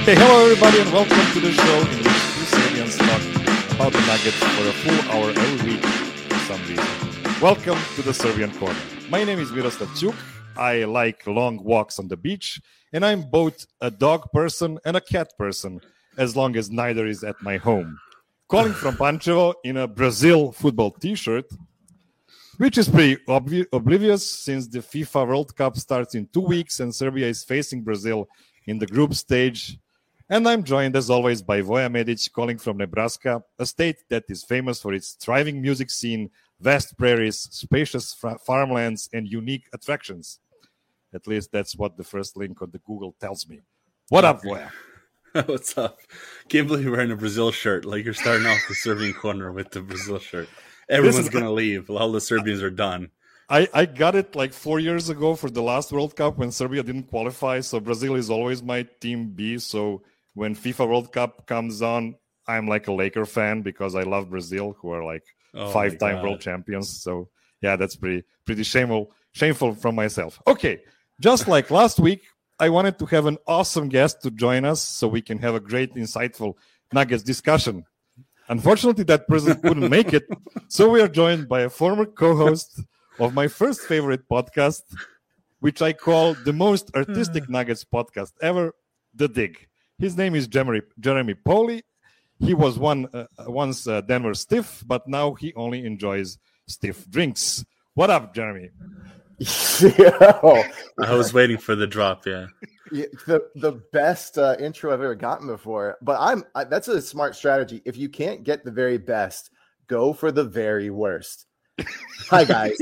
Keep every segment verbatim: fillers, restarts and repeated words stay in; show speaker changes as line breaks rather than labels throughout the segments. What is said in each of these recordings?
Okay, hello everybody and welcome to the show in which two Serbians talk about the Nuggets for a full hour every week for some reason. Welcome to the Serbian Corner. My name is Miroslav Ćuk. I like long walks on the beach, and I'm both a dog person and a cat person, as long as neither is at my home. Calling from Pančevo in a Brazil football t-shirt, which is pretty obvi- oblivious since the FIFA World Cup starts in two weeks and Serbia is facing Brazil in the group stage. And I'm joined, as always, by Voja Medic, calling from Nebraska, a state that is famous for its thriving music scene, vast prairies, spacious fra- farmlands, and unique attractions. At least that's what the first link on the Google tells me. What up, Voja?
What's up? Can't believe you're wearing a Brazil shirt. Like you're starting off the Serbian Corner with the Brazil shirt. Everyone's going to leave. All the Serbians are done.
I, I got it like four years ago for the last World Cup when Serbia didn't qualify. So Brazil is always my team B. So when FIFA World Cup comes on, I'm like a Laker fan because I love Brazil, who are like
Oh
five-time world champions. So yeah, that's pretty pretty shameful shameful from myself. Okay, just like last week, I wanted to have an awesome guest to join us so we can have a great, insightful Nuggets discussion. Unfortunately, that person couldn't make it, so we are joined by a former co-host of my first favorite podcast, which I call the most artistic Nuggets podcast ever, The Dig. His name is Jeremy, Jeremy Poli. He was one uh, once uh, Denver Stiff, but now he only enjoys stiff drinks. What up, Jeremy?
Yo,
I was waiting for the drop, yeah.
yeah, the the best uh, intro I've ever gotten before. But I'm I, that's a smart strategy. If you can't get the very best, go for the very worst. Hi guys,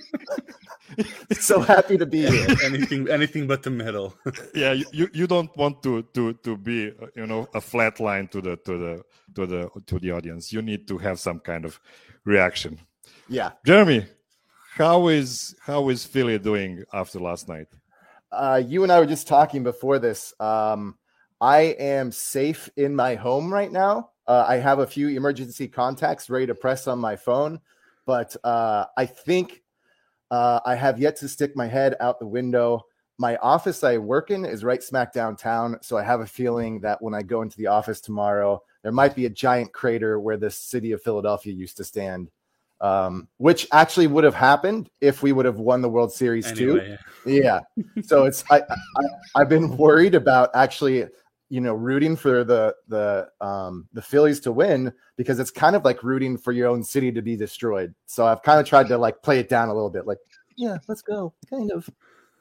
so happy to be here.
Anything, anything but the middle.
Yeah, you, you, you don't want to to to be uh, you know a flat line to the to the to the to the audience. You need to have some kind of reaction.
Yeah,
Jeremy, how is how is Philly doing after last night?
uh, you and I were just talking before this. Um, I am safe in my home right now. Uh, I have a few emergency contacts ready to press on my phone, but uh, I think uh, I have yet to stick my head out the window. My office I work in is right smack downtown, so I have a feeling that when I go into the office tomorrow, there might be a giant crater where the city of Philadelphia used to stand, um, which actually would have happened if we would have won the World Series
Anyway,
too. Yeah. So it's I, I I've been worried about actually, you know, rooting for the the um the Phillies to win because it's kind of like rooting for your own city to be destroyed. So I've kind of tried to like play it down a little bit, like, yeah, let's go, kind of.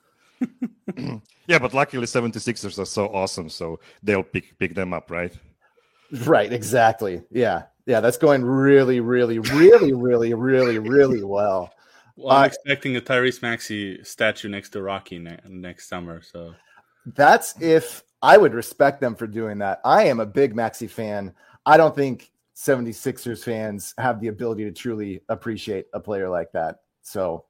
Yeah, but luckily seventy-sixers are so awesome, so they'll pick pick them up, right?
Right, exactly. Yeah, yeah, that's going really, really, really, really, really, really well.
Well, I'm
Uh,
expecting a Tyrese Maxey statue next to Rocky ne- next summer. So
That's if I would respect them for doing that. I am a big Maxey fan. I don't think seventy-sixers fans have the ability to truly appreciate a player like that. So,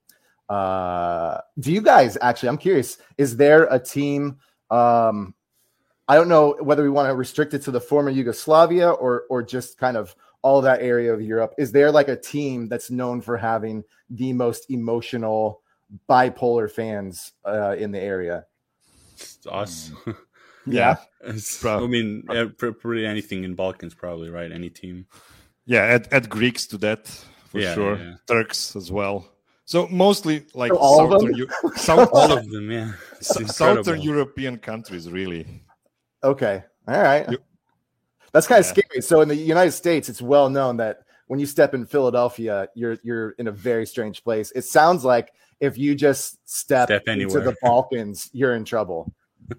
uh, do you guys actually, I'm curious, is there a team? Um, I don't know whether we want to restrict it to the former Yugoslavia or, or just kind of all that area of Europe. Is there like a team that's known for having the most emotional bipolar fans uh, in the area?
it's us.
Yeah.
It's-
Prob-
I mean, yeah, pr- pretty anything in Balkans, probably, right? Any team.
Yeah, add, add Greeks to that for
Yeah,
sure.
yeah.
Turks as well. So mostly like
So all of
southern,
them?
Eu- south,
All of them, yeah. It's
southern
incredible.
European countries, really.
Okay. All right.
You-
That's kind of
Yeah.
scary. So in the United States, it's well known that when you step in Philadelphia, you're you're in a very strange place. It sounds like if you just step,
Step
into
anywhere.
the Balkans, you're in trouble.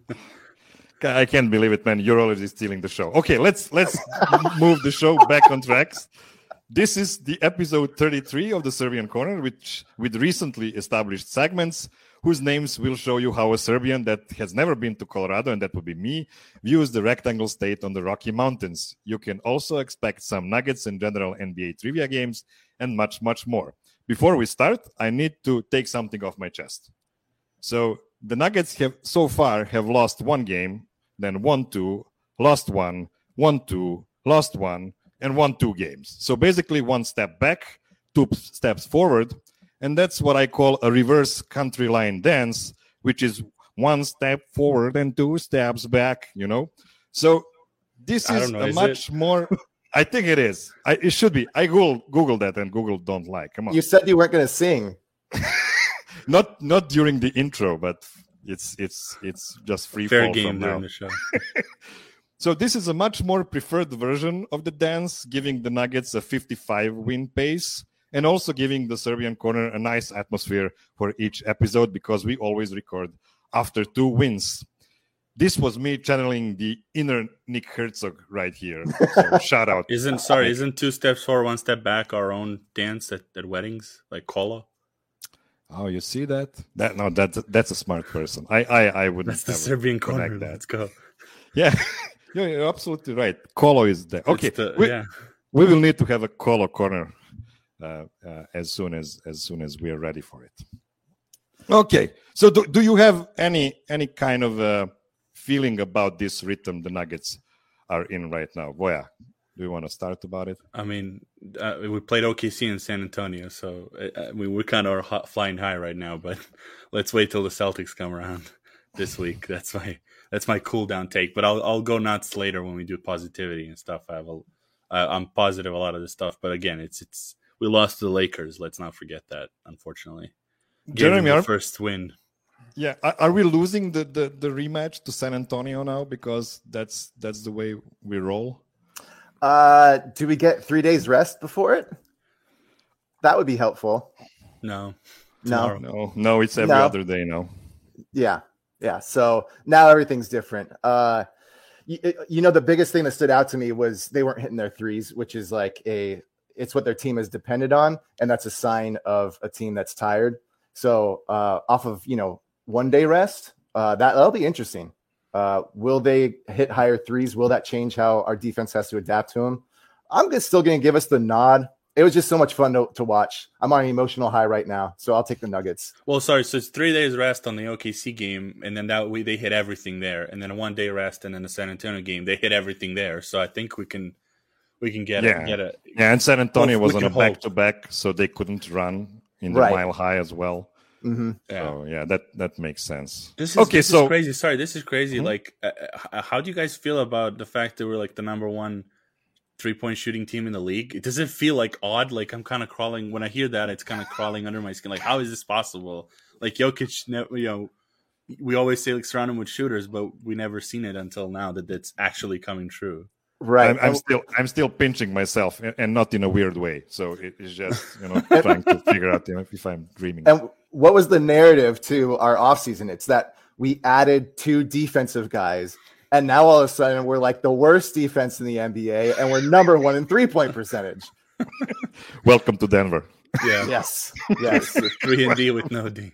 I can't believe it, man. You're already stealing the show. Okay, let's let's move the show back on tracks. This is the episode thirty-three of the Serbian Corner, which with recently established segments whose names will show you how a Serbian that has never been to Colorado, and that would be me, views the rectangle state on the Rocky Mountains. You can also expect some nuggets and general N B A trivia games and much, much more. Before we start, I need to take something off my chest. So the Nuggets have so far have lost one game, then won two, lost one, won two, lost one, and won two games. So basically one step back, two p- steps forward, and that's what I call a reverse country line dance, which is one step forward and two steps back, you know. So this
I
is
don't know,
a
is
much
it?
more. I think it is. I, it should be. I Google Google that, and Google don't lie. Come on.
You said you weren't going to sing.
not not during the intro, but it's it's it's just free
Fair
fall
game
from
during
now.
the show.
So this is a much more preferred version of the dance, giving the Nuggets a fifty-five win pace, and also giving the Serbian corner a nice atmosphere for each episode, because we always record after two wins. This was me channeling the inner Nick Herzog right here. So shout out.
Isn't sorry, isn't two steps forward, one step back our own dance at, at weddings, like Kolo?
Oh, you see that? That no, that's that's a smart person. I I, I wouldn't.
That's the
ever
Serbian corner.
connect that.
Let's go.
Yeah, you're, you're absolutely right. Kolo is there. Okay,
It's the-
we,
yeah.
we will need to have a Kolo corner uh, uh, as soon as as soon as we are ready for it. Okay, so do, do you have any any kind of uh, feeling about this rhythm the Nuggets are in right now? Voya, do you want to start about it?
I mean, uh, we played O K C in San Antonio, so uh, I mean, we're kind of hot, flying high right now. But let's wait till the Celtics come around this week. That's my that's my cool down take. But I'll I'll go nuts later when we do positivity and stuff. I have a, uh, I'm positive a lot of this stuff. But again, it's it's we lost to the Lakers. Let's not forget that. Unfortunately, Gave them
Jeremy,
the
are,
first win.
yeah, are, are we losing the, the the rematch to San Antonio now because that's that's the way we roll?
Uh, do we get three days rest before it? That would be helpful.
No,
No.
tomorrow.
No, no, it's every
No.
other day now.
Yeah. Yeah. So now everything's different. Uh, you, you know, the biggest thing that stood out to me was they weren't hitting their threes, which is like a, it's what their team has depended on. And that's a sign of a team that's tired. So uh, off of, you know, one day rest, uh, that, that'll be interesting. Uh, will they hit higher threes? Will that change how our defense has to adapt to them? I'm just still going to give us the nod. It was just so much fun to, to watch. I'm on an emotional high right now, so I'll take the Nuggets.
Well, sorry. So it's three days rest on the O K C game, and then that way they hit everything there, and then a one day rest, and then the San Antonio game they hit everything there. So I think we can we can get
Yeah.
it. Get it.
Yeah, and San Antonio
Well,
was
we
on a
can hope.
back-to-back, so they couldn't run in the
Right.
mile high as well.
Mm-hmm.
Yeah.
So yeah, that that makes sense.
This is
okay.
this
So
is crazy. Sorry, this is crazy.
Mhm.
Like, uh, uh, how do you guys feel about the fact that we're like the number one three point shooting team in the league? Does it feel like odd? Like I'm kind of crawling when I hear that. It's kind of crawling under my skin. Like, how is this possible? Like Jokic, ne- you know, we always say like surround him with shooters, but we never seen it until now that it's actually coming true.
Right.
I'm, I'm still I'm still pinching myself, and, and not in a weird way. So it, it's just you know trying to figure out you know, if I'm dreaming.
And what was the narrative to our offseason? It's that we added two defensive guys, and now all of a sudden we're like the worst defense in the N B A, and we're number one in three-point percentage.
Welcome to Denver.
Yeah,
Yes. Yes.
three and D with no D.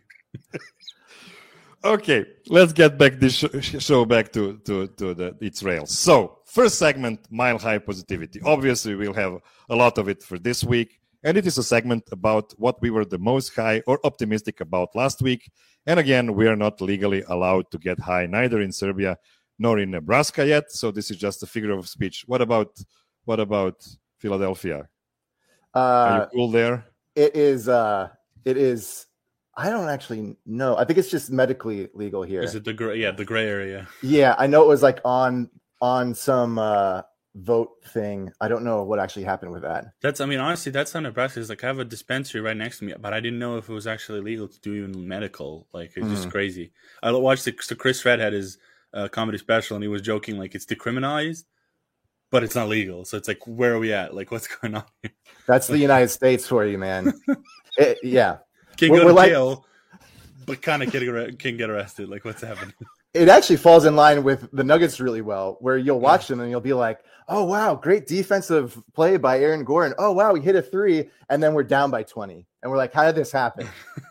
Okay, let's get back this sh- show back to to to the its rails. So first segment, mile high positivity. Obviously, we'll have a lot of it for this week, and it is a segment about what we were the most high or optimistic about last week. And again, we are not legally allowed to get high neither in Serbia nor in Nebraska yet. So this is just a figure of speech. What about what about Philadelphia? Are you
Uh,
cool there?
it is. Uh, it is. I don't actually know. I think it's just medically legal here.
Is it the gray? Yeah, the gray area.
Yeah, I know it was like on on some uh, vote thing. I don't know what actually happened with that.
That's. I mean, honestly, that's not Nebraska. It's like I have a dispensary right next to me, but I didn't know if it was actually legal to do even medical. Like it's just
Mhm.
crazy. I watched the, so Chris Red had his uh, comedy special, and he was joking like it's decriminalized, but it's not legal. So it's like, where are we at? Like, what's going on here?
That's the United States for you, man. It, yeah.
Can
We're-
go
we're
to
like-
jail, but kind of can, arre- can get arrested. Like, what's happening?
It actually falls in line with the Nuggets really well, where you'll watch them and you'll be like, oh, wow, great defensive play by Aaron Gordon. Oh, wow, we hit a three, and then we're down by twenty. And we're like, how did this happen?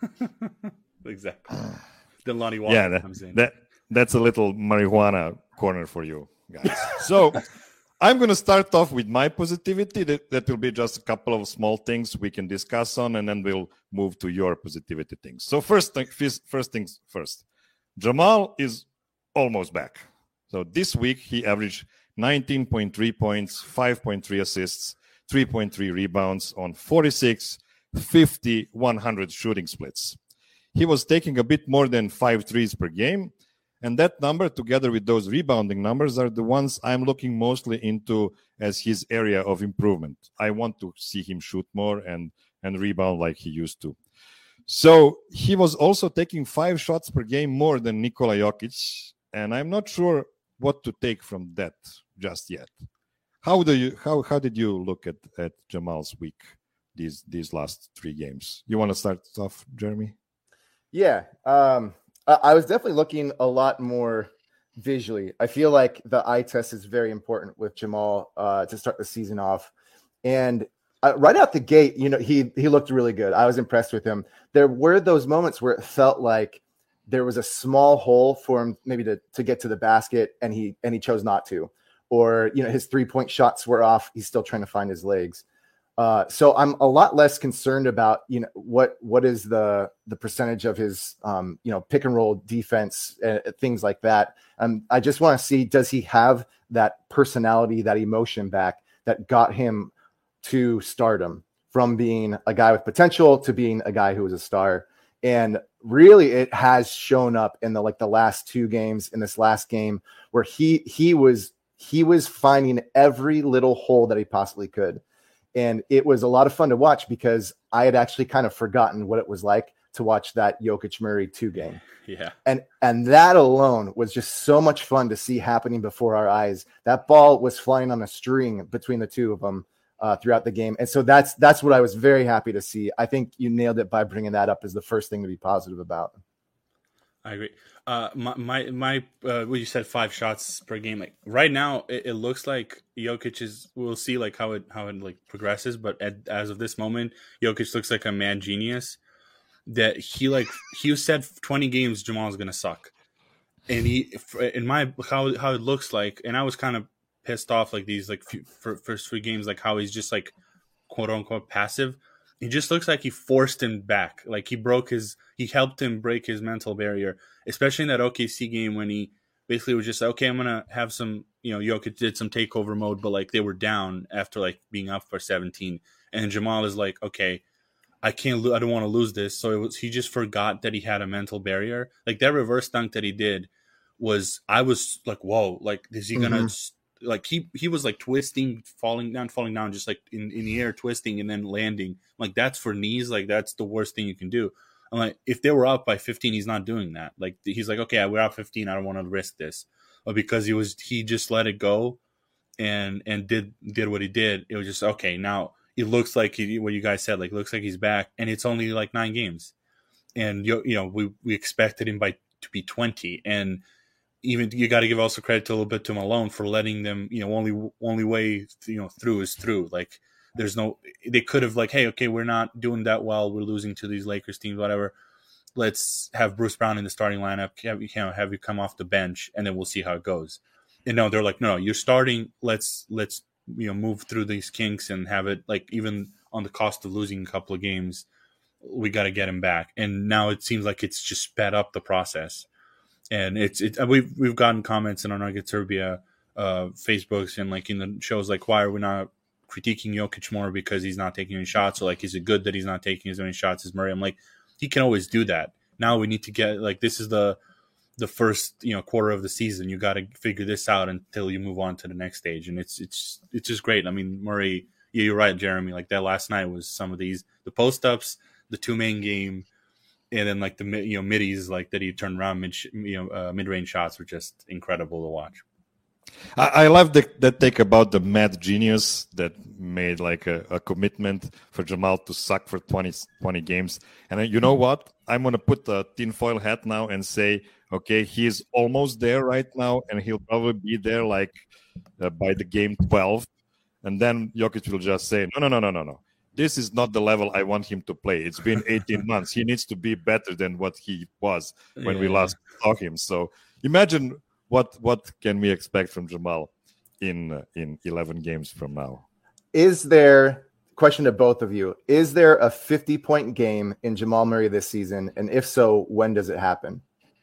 Exactly. Then Lonnie Walker
Yeah, that,
comes in.
that that's a little marijuana corner for you guys. So I'm going to start off with my positivity. That, that will be just a couple of small things we can discuss on, and then we'll move to your positivity things. So first, thing, first, first things first. Jamal is almost back. So this week he averaged nineteen point three points, five point three assists, three point three rebounds on forty-six, fifty, one hundred shooting splits. He was taking a bit more than five threes per game, And that number, together with those rebounding numbers, are the ones I'm looking mostly into as his area of improvement. I want to see him shoot more and, and rebound like he used to. So he was also taking five shots per game more than Nikola Jokic, and I'm not sure what to take from that just yet. How do you how how did you look at, at Jamal's week these these last three games? You want to start off, Jeremy?
Yeah, um, I, I was definitely looking a lot more visually. I feel like the eye test is very important with Jamal uh, to start the season off, and uh, right out the gate, you know, he he looked really good. I was impressed with him. There were those moments where it felt like there was a small hole for him maybe to to get to the basket, and he and he chose not to. Or, you know, his three-point shots were off. He's still trying to find his legs. Uh, so I'm a lot less concerned about, you know, what what is the the percentage of his, um, you know, pick and roll defense, uh, things like that. Um, I just want to see, does he have that personality, that emotion back that got him to stardom from being a guy with potential to being a guy who was a star. And really, it has shown up in the like the last two games, in this last game where he he was. He was finding every little hole that he possibly could. And it was a lot of fun to watch because I had actually kind of forgotten what it was like to watch that Jokic Murray two game.
Yeah.
And and that alone was just so much fun to see happening before our eyes. That ball was flying on a string between the two of them uh, throughout the game. And so that's that's what I was very happy to see. I think you nailed it by bringing that up as the first thing to be positive about.
I agree. Uh, my my, my uh, what you said, five shots per game. Like right now, it, it looks like Jokic is. We'll see like how it how it like progresses. But at, as of this moment, Jokic looks like a mad genius. That he like he said twenty games Jamal's gonna suck, and he in my how how it looks like. And I was kind of pissed off like these like few, for, first three games, like how he's just like quote unquote passive. He just looks like he forced him back. Like he broke his, he helped him break his mental barrier, especially in that O K C game when he basically was just, okay, I'm going to have some, you know, Jokic did some takeover mode, but like they were down after like being up for seventeen. And Jamal is like, okay, I can't, lo- I don't want to lose this. So it was, he just forgot that he had a mental barrier. Like that reverse dunk that he did was, I was like, whoa, like, is he going to, mm-hmm. Like he he was like twisting, falling down, falling down, just like in, in the air, twisting and then landing. Like that's for knees. Like that's the worst thing you can do. I'm like, if they were up by fifteen, he's not doing that. Like he's like, okay, we're up fifteen. I don't want to risk this. But because he was, he just let it go, and and did did what he did. It was just okay. Now it looks like he, what you guys said. Like it looks like he's back, and it's only like nine games, and you you know we we expected him by to be twenty and. Even you got to give also credit to a little bit to Malone for letting them, you know, only only way you know through is through. Like there's no, they could have like, hey, okay, we're not doing that well, we're losing to these Lakers teams, whatever. Let's have Bruce Brown in the starting lineup, have you know, have you come off the bench, and then we'll see how it goes. And no, they're like, no, no, you're starting. Let's let's you know move through these kinks and have it like even on the cost of losing a couple of games, we got to get him back. And now it seems like it's just sped up the process. And it's it we've we've gotten comments in our Nugget Serbia uh, Facebooks and like in the shows like, why are we not critiquing Jokic more because he's not taking any shots, or like is it good that he's not taking as many shots as Murray? I'm like, he can always do that. Now we need to get like this is the the first you know quarter of the season. You got to figure this out until you move on to the next stage, and it's it's it's just great. I mean, Murray, yeah, you're right, Jeremy. Like that last night was some of these the post ups, the two main game. And then like the you know middies like that he turned around mid you know uh, mid range shots were just incredible to watch.
I, I love the, that take about the mad genius that made like a, a commitment for Jamal to suck for twenty, twenty games. And then, you know what? I'm gonna put the tinfoil hat now and say, okay, he's almost there right now, and he'll probably be there like uh, by the game twelve. And then Jokic will just say, no, no, no, no, no, no. This is not the level I want him to play. It's been eighteen months. He needs to be better than what he was when yeah. we last saw him. So imagine what what can we expect from Jamal in uh, in eleven games from now.
Is there, question to both of you, is there a fifty-point game in Jamal Murray this season? And if so, when does it happen?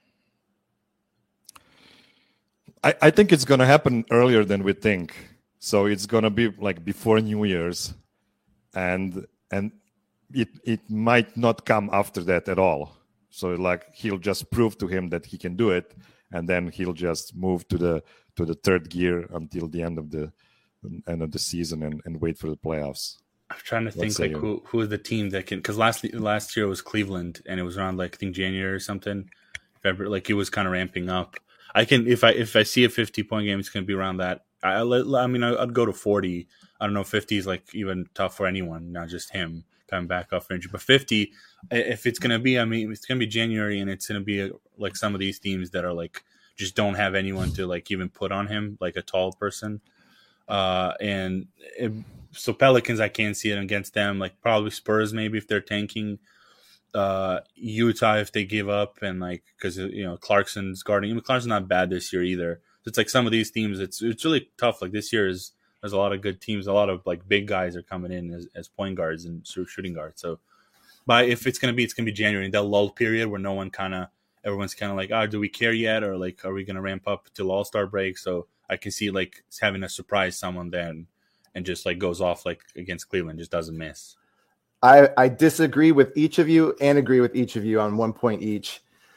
I, I think it's going to happen earlier than we think. So it's going to be like before New Year's. And and it it might not come after that at all. So like he'll just prove to him that he can do it, and then he'll just move to the to the third gear until the end of the end of the season and, and wait for the playoffs.
I'm trying to
What
think
say
like
you?
who who is the team that can, because last last year it was Cleveland and it was around like I think January or something, February, like it was kind of ramping up. I can if I if I see a fifty point game, it's going to be around that. I I mean I'd go to forty. I don't know, fifty is like even tough for anyone, not just him coming back off injury. But fifty, if it's going to be, I mean it's going to be January and it's going to be a, like some of these teams that are like just don't have anyone to like even put on him, like a tall person. Uh, and it, so Pelicans, I can't see it against them. Like probably Spurs, maybe if they're tanking. Uh, Utah if they give up, and like because you know Clarkson's guarding. I mean, Clarkson's not bad this year either. So it's like some of these teams. It's it's really tough. Like this year is there's a lot of good teams. A lot of like big guys are coming in as, as point guards and shooting guards. So, but if it's gonna be, it's gonna be January, that lull period where no one kind of everyone's kind of like, oh, do we care yet, or like, are we gonna ramp up till All Star break? So I can see like having a surprise someone then and just like goes off like against Cleveland, just doesn't miss.
I, I disagree with each of you and agree with each of you on one point each.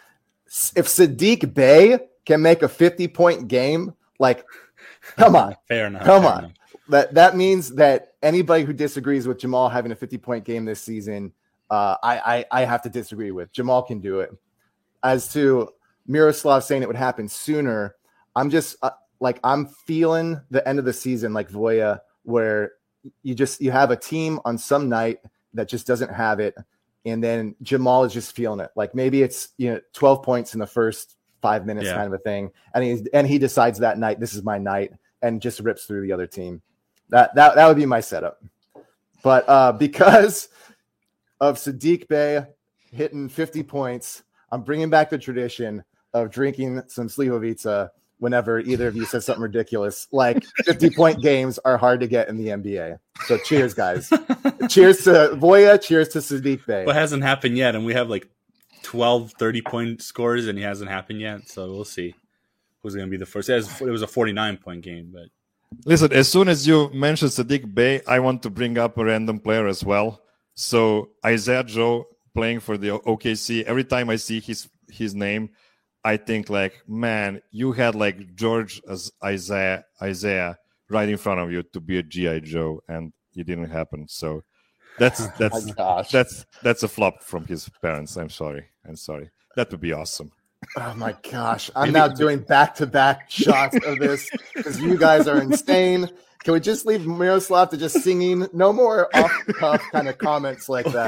If Saddiq Bey can make a fifty point game, like, come on,
fair enough.
Come
fair
on.
Enough.
That that means that anybody who disagrees with Jamal having a fifty point game this season, uh, I, I I have to disagree with. Jamal can do it. As to Miroslav saying it would happen sooner, I'm just uh, like I'm feeling the end of the season like Voya, where you just you have a team on some night that just doesn't have it, and then Jamal is just feeling it. Like maybe it's you know twelve points in the first five minutes,
yeah.
kind of a thing, and he and he decides that night this is my night, and just rips through the other team. That that that would be my setup. But uh, because of Saddiq Bey hitting fifty points, I'm bringing back the tradition of drinking some Slivovica whenever either of you says something ridiculous. Like fifty point games are hard to get in the N B A. So cheers, guys. Cheers to Voya. Cheers to Saddiq Bey.
Well, it hasn't happened yet, and we have like twelve, thirty point scores, and he hasn't happened yet. So we'll see who's going to be the first. It was a forty-nine point game, but.
Listen, as soon as you mentioned Saddiq Bey, I want to bring up a random player as well. So Isaiah Joe playing for the O K C. Every time I see his his name, I think like, man, you had like George as Isaiah Isaiah right in front of you to be a G I Joe, and it didn't happen. So that's that's
oh
that's that's a flop from his parents. I'm sorry. I'm sorry. That would be awesome.
Oh my gosh. I'm now doing back-to-back shots of this because you guys are insane. Can we just leave Miroslav to just singing? No more off-the-cuff kind of comments like that.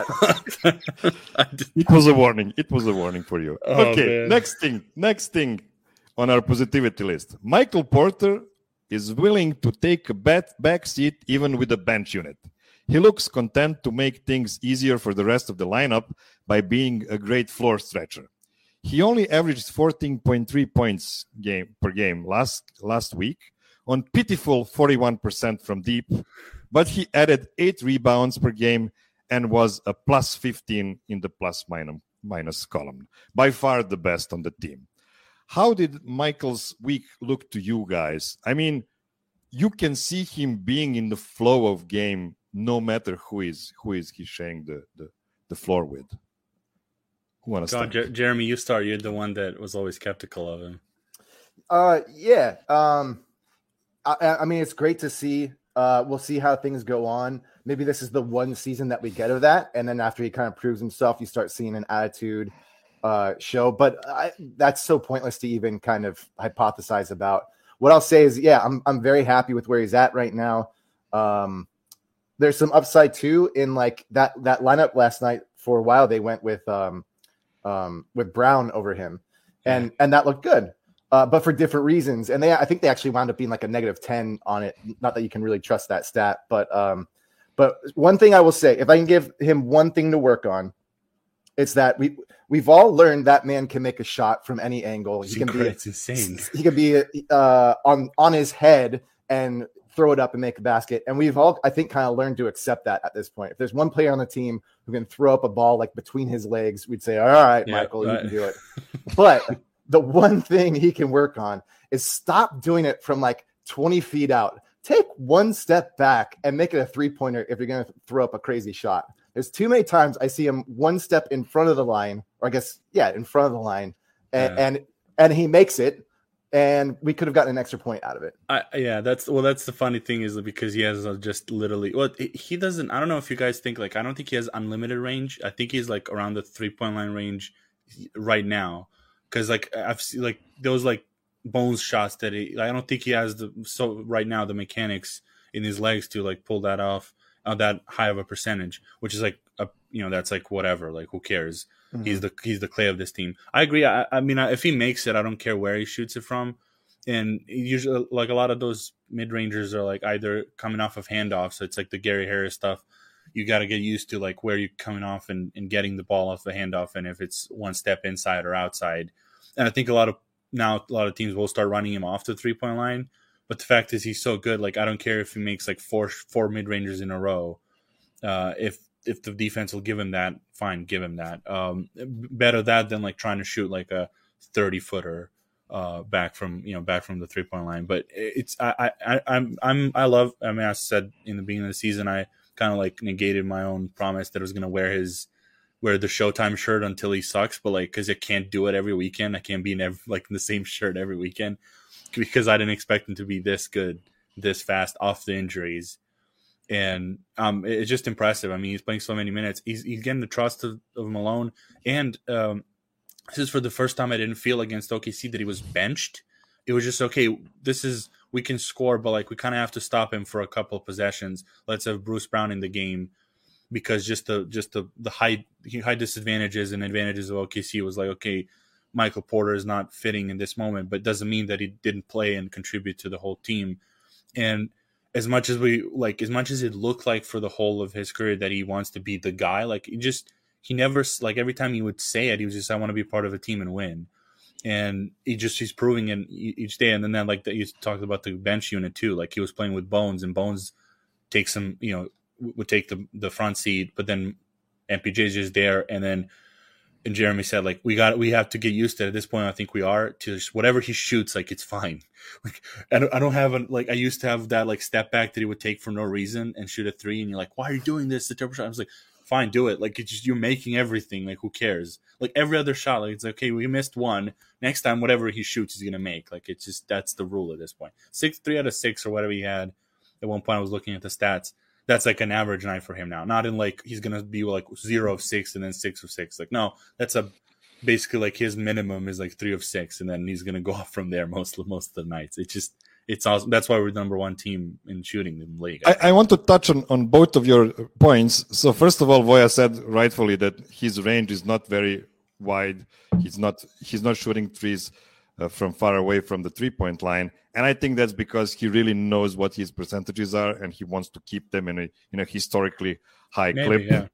It was a warning. It was a warning for you.
Oh,
okay,
man.
next thing. Next thing on our positivity list. Michael Porter is willing to take a back, back seat even with a bench unit. He looks content to make things easier for the rest of the lineup by being a great floor stretcher. He only averaged fourteen point three points game per game last last week on pitiful forty-one percent from deep, but he added eight rebounds per game and was a plus fifteen in the plus minus, minus column. By far the best on the team. How did Michael's week look to you guys? I mean, you can see him being in the flow of game no matter who is who is he sharing the, the, the floor with.
God, Jer- Jeremy, you start. You're the one that was always skeptical of him.
Uh, yeah. Um, I, I mean, it's great to see. Uh, we'll see how things go on. Maybe this is the one season that we get of that, and then after he kind of proves himself, you start seeing an attitude uh, show. But I, that's so pointless to even kind of hypothesize about. What I'll say is, yeah, I'm I'm very happy with where he's at right now. Um, there's some upside too in like that that lineup last night. For a while, they went with. Um, Um, with Brown over him, and and that looked good, uh, but for different reasons. And they, I think they actually wound up being like a negative ten on it. Not that you can really trust that stat, but um, but one thing I will say, if I can give him one thing to work on, it's that we we've all learned that man can make a shot from any angle. He can be,
it's insane.
He can be uh, on on his head and throw it up and make a basket. And we've all, I think, kind of learned to accept that at this point. If there's one player on the team who can throw up a ball like between his legs, we'd say, all right,
yeah,
Michael,
right.
you can do it. But the one thing he can work on is stop doing it from like twenty feet out. Take one step back and make it a three-pointer if you're going to throw up a crazy shot. There's too many times I see him one step in front of the line, or I guess, yeah, in front of the line. And,
yeah.
and and he makes it. And we could have gotten an extra point out of it.
I, yeah, that's well. That's the funny thing is because he has just literally. Well, he doesn't. I don't know if you guys think like I don't think he has unlimited range. I think he's like around the three point line range right now. Because like I've seen like those like Bones shots that he. I don't think he has the so right now the mechanics in his legs to like pull that off uh, that high of a percentage, which is like a you know that's like whatever. Like who cares? Mm-hmm. He's the he's the clay of this team. I agree. I, I mean, if he makes it, I don't care where he shoots it from. And usually, like a lot of those mid rangers are like either coming off of handoffs. So it's like the Gary Harris stuff. You got to get used to like where you're coming off and, and getting the ball off the handoff, and if it's one step inside or outside. And I think a lot of now a lot of teams will start running him off the three point line. But the fact is, he's so good. Like I don't care if he makes like four four mid rangers in a row. Uh, if If the defense will give him that, fine, give him that. Um, better that than like trying to shoot like a thirty footer uh, back from you know back from the three point line. But it's I I I'm I'm I love. I mean, I said in the beginning of the season, I kind of like negated my own promise that I was going to wear his wear the Showtime shirt until he sucks. But like, because I can't do it every weekend, I can't be in every, like in the same shirt every weekend because I didn't expect him to be this good, this fast off the injuries. And um, it's just impressive. I mean, he's playing so many minutes. He's he's getting the trust of, of Malone. And um, this is for the first time I didn't feel against O K C that he was benched. It was just, okay, this is, we can score, but like we kind of have to stop him for a couple of possessions. Let's have Bruce Brown in the game because just the just the, the high, high disadvantages and advantages of O K C was like, okay, Michael Porter is not fitting in this moment, but doesn't mean that he didn't play and contribute to the whole team. And as much as we like, as much as it looked like for the whole of his career that he wants to be the guy, like he just, he never, like every time he would say it, he was just, I want to be part of a team and win. And he just, he's proving it each day. And then, then like that, you talked about the bench unit too. Like he was playing with Bones, and Bones takes some, you know, would take the, the front seat, but then M P J's just there. And then, and Jeremy said, like, we got, we have to get used to it. At this point, I think we are to just, whatever he shoots, like, it's fine. Like, I don't, I don't have a, like, I used to have that, like, step back that he would take for no reason and shoot a three. And you're like, why are you doing this? The triple shot. I was like, fine, do it. Like, it's just, you're making everything. Like, who cares? Like, every other shot, like, it's like, okay, we missed one. Next time, whatever he shoots, he's going to make. Like, it's just, that's the rule at this point. Six, three out of six or whatever he had. At one point, I was looking at the stats. That's like an average night for him now. Not in like, he's going to be like zero of six and then six of six. Like, no, that's a, basically like his minimum is like three of six, and then he's going to go off from there most most of the nights. It's just, it's awesome. That's why we're the number one team in shooting in the league.
I, I want to touch on, on both of your points. So first of all, Voya said rightfully that his range is not very wide. He's not he's not shooting threes uh, from far away from the three point line, and I think that's because he really knows what his percentages are, and he wants to keep them in a in a historically high
Maybe,
clip.
Yeah.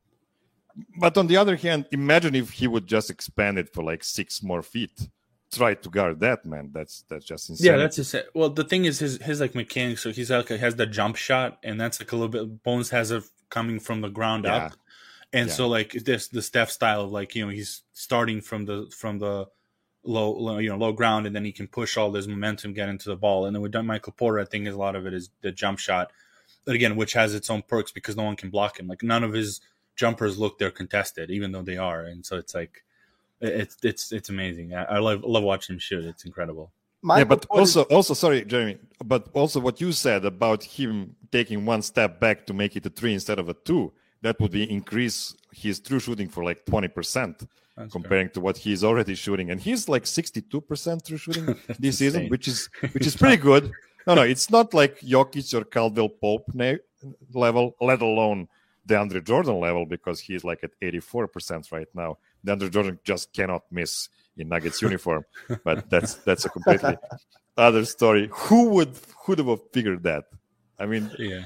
But on the other hand, imagine if he would just expand it for like six more feet. Try to guard that, man. That's that's just insane.
Yeah, that's just it. Well, the thing is, his his like mechanics. So he's like has the jump shot, and that's like a little bit. Bones has it coming from the ground
yeah.
up, and
yeah.
so like this the Steph style of like you know he's starting from the from the low, low you know low ground, and then he can push all this momentum, get into the ball. And then with Michael Porter, I think a lot of it is the jump shot, but again, which has its own perks because no one can block him. Like none of his jumpers look they're contested, even though they are, and so it's like it's it's it's amazing. I, I love love watching him shoot. It's incredible.
Michael yeah, but also also sorry, Jeremy, but also what you said about him taking one step back to make it a three instead of a two, that would be increase his true shooting for like twenty percent comparing fair. to what he's already shooting, and he's like sixty-two percent true shooting this season, which is which is pretty good. No, no, it's not like Jokic or Caldwell Pope na- level, let alone DeAndre Jordan level, because he's like at eighty-four percent right now. DeAndre Jordan just cannot miss in Nuggets uniform, but that's that's a completely other story. Who would who would have figured that? I mean,
yeah,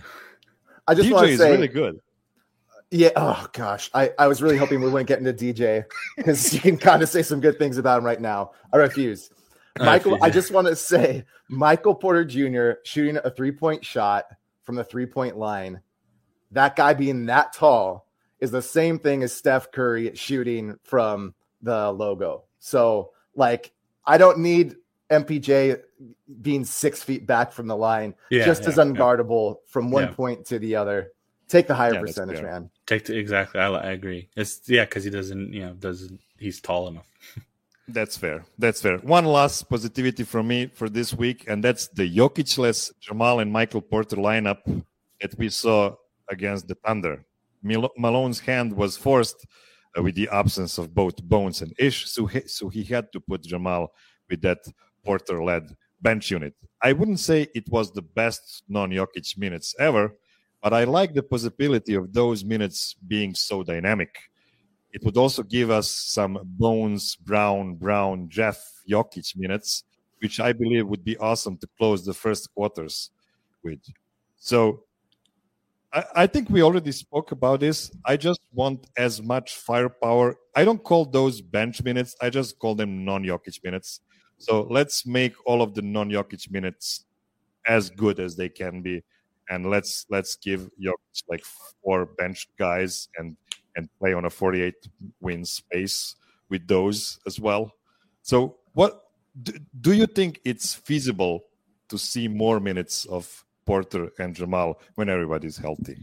I just
D J
want to
is
say,
really good.
Yeah. Oh gosh, I, I was really hoping we wouldn't get into D J because you can kind of say some good things about him right now. I refuse. Michael, I, refuse. I just want to say Michael Porter Junior shooting a three point shot from the three point line. That guy being that tall is the same thing as Steph Curry shooting from the logo. So, like, I don't need M P J being six feet back from the line,
yeah,
just
yeah,
as unguardable yeah. from one
yeah.
point to the other. Take the higher
yeah,
percentage, man.
Take the, exactly. I, I agree. It's yeah, because he doesn't, you know, doesn't. He's tall enough.
That's fair. That's fair. One last positivity from me for this week, and that's the Jokic-less Jamal and Michael Porter lineup that we saw against the Thunder. Mil- Malone's hand was forced uh, with the absence of both Bones and Ish, so he, so he had to put Jamal with that Porter-led bench unit. I wouldn't say it was the best non-Jokic minutes ever, but I like the possibility of those minutes being so dynamic. It would also give us some Bones, Brown, Brown, Jeff, Jokic minutes, which I believe would be awesome to close the first quarters with. So I, I think we already spoke about this. I just want as much firepower. I don't call those bench minutes. I just call them non-Jokic minutes. So let's make all of the non-Jokic minutes as good as they can be. And let's let's give Jokic like four bench guys and and play on a forty-eight win space with those as well. So what do, do you think it's feasible to see more minutes of Porter and Jamal when everybody's healthy?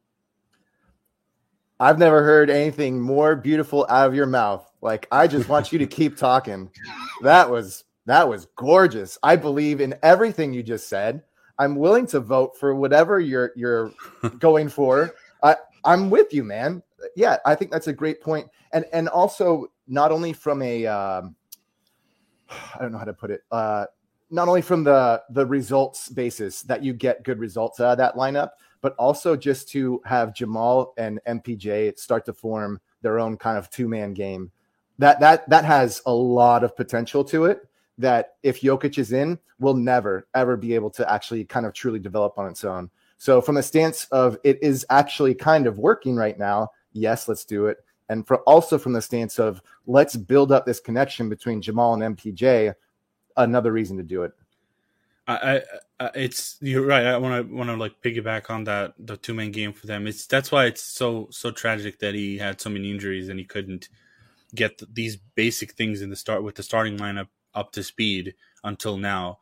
I've never heard anything more beautiful out of your mouth. Like, I just want you to keep talking. That was that was gorgeous. I believe in everything you just said. I'm willing to vote for whatever you're you're going for. I I'm with you, man. Yeah, I think that's a great point. And and also not only from a um, I don't know how to put it. Uh, not only from the the results basis that you get good results out of that lineup, but also just to have Jamal and M P J start to form their own kind of two-man game. That that that has a lot of potential to it that if Jokic is in, will never, ever be able to actually kind of truly develop on its own. So from the stance of it is actually kind of working right now, yes, let's do it. And for also from the stance of let's build up this connection between Jamal and M P J, another reason to do it.
I, I it's you're right. I want to want to like piggyback on that the two man game for them. It's that's why it's so so tragic that he had so many injuries and he couldn't get th- these basic things in the start with the starting lineup up to speed until now.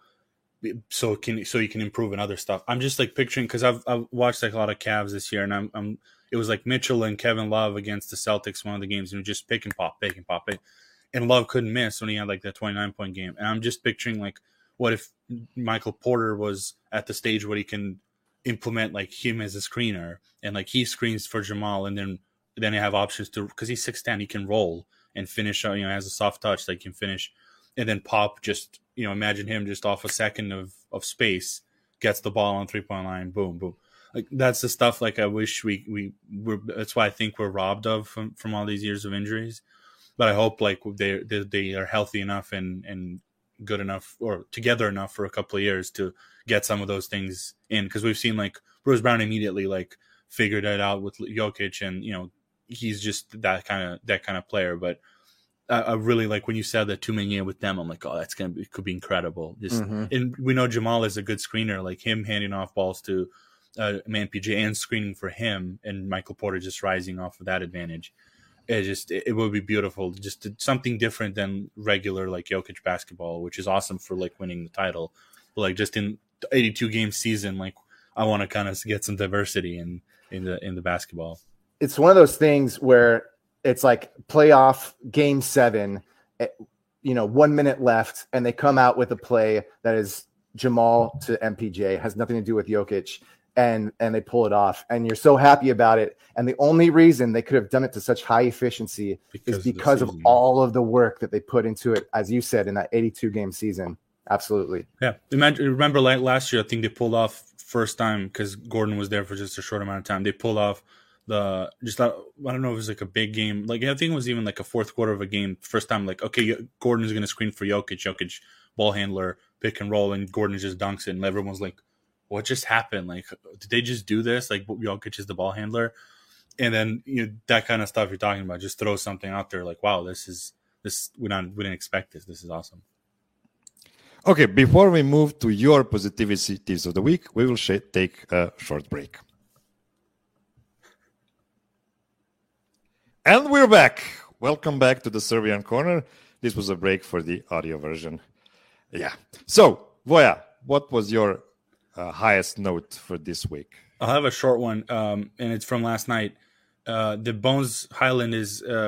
So can so you can improve in other stuff. I'm just like picturing because I've I've watched like a lot of Cavs this year and I'm I'm it was like Mitchell and Kevin Love against the Celtics one of the games and just pick and pop, pick and pop, pick. And Love couldn't miss when he had like that twenty-nine point game. And I'm just picturing like what if Michael Porter was at the stage where he can implement like him as a screener and like he screens for Jamal and then then they have options to because he's six ten, he can roll and finish. You know, has a soft touch, like he can finish, and then Pop just you know imagine him just off a second of of space gets the ball on three point line, boom, boom. Like that's the stuff like I wish we we were. That's why I think we're robbed of from, from all these years of injuries. But I hope like they they, they are healthy enough and and good enough or together enough for a couple of years to get some of those things in because we've seen like Bruce Brown immediately like figured it out with Jokic and you know he's just that kind of that kind of player. But I, I really like when you said that two man game with them. I'm like, oh, that's gonna be could be incredible. Just mm-hmm. And we know Jamal is a good screener, like him handing off balls to uh, Man P J and screening for him, and Michael Porter just rising off of that advantage. It just it, it would be beautiful, just to, something different than regular like Jokic basketball, which is awesome for like winning the title. But like just in the eighty-two game season, like I want to kind of get some diversity in in the in the basketball.
It's one of those things where it's like playoff game seven, you know, one minute left, and they come out with a play that is Jamal to M P J, has nothing to do with Jokic. And and they pull it off, and you're so happy about it. And the only reason they could have done it to such high efficiency because is because of, of all of the work that they put into it, as you said, in that eighty-two game season. Absolutely.
Yeah. Imagine, remember like last year, I think they pulled off first time because Gordon was there for just a short amount of time. They pulled off the just I don't know if it was like a big game. Like I think it was even like a fourth quarter of a game. First time, like okay, Gordon is going to screen for Jokic. Jokic ball handler pick and roll, and Gordon just dunks it, and everyone's like, what just happened? Like, did they just do this? Like, Jokic is the ball handler, and then you know that kind of stuff you're talking about. Just throw something out there, like, wow, this is this. We not we didn't expect this. This is awesome.
Okay, before we move to your positivities of the week, we will sh- take a short break, and we're back. Welcome back to the Serbian Corner. This was a break for the audio version. Yeah. So, Voja, what was your Uh, highest note for this week?
I'll have a short one, um, and it's from last night. Uh, the Bones Highland is uh,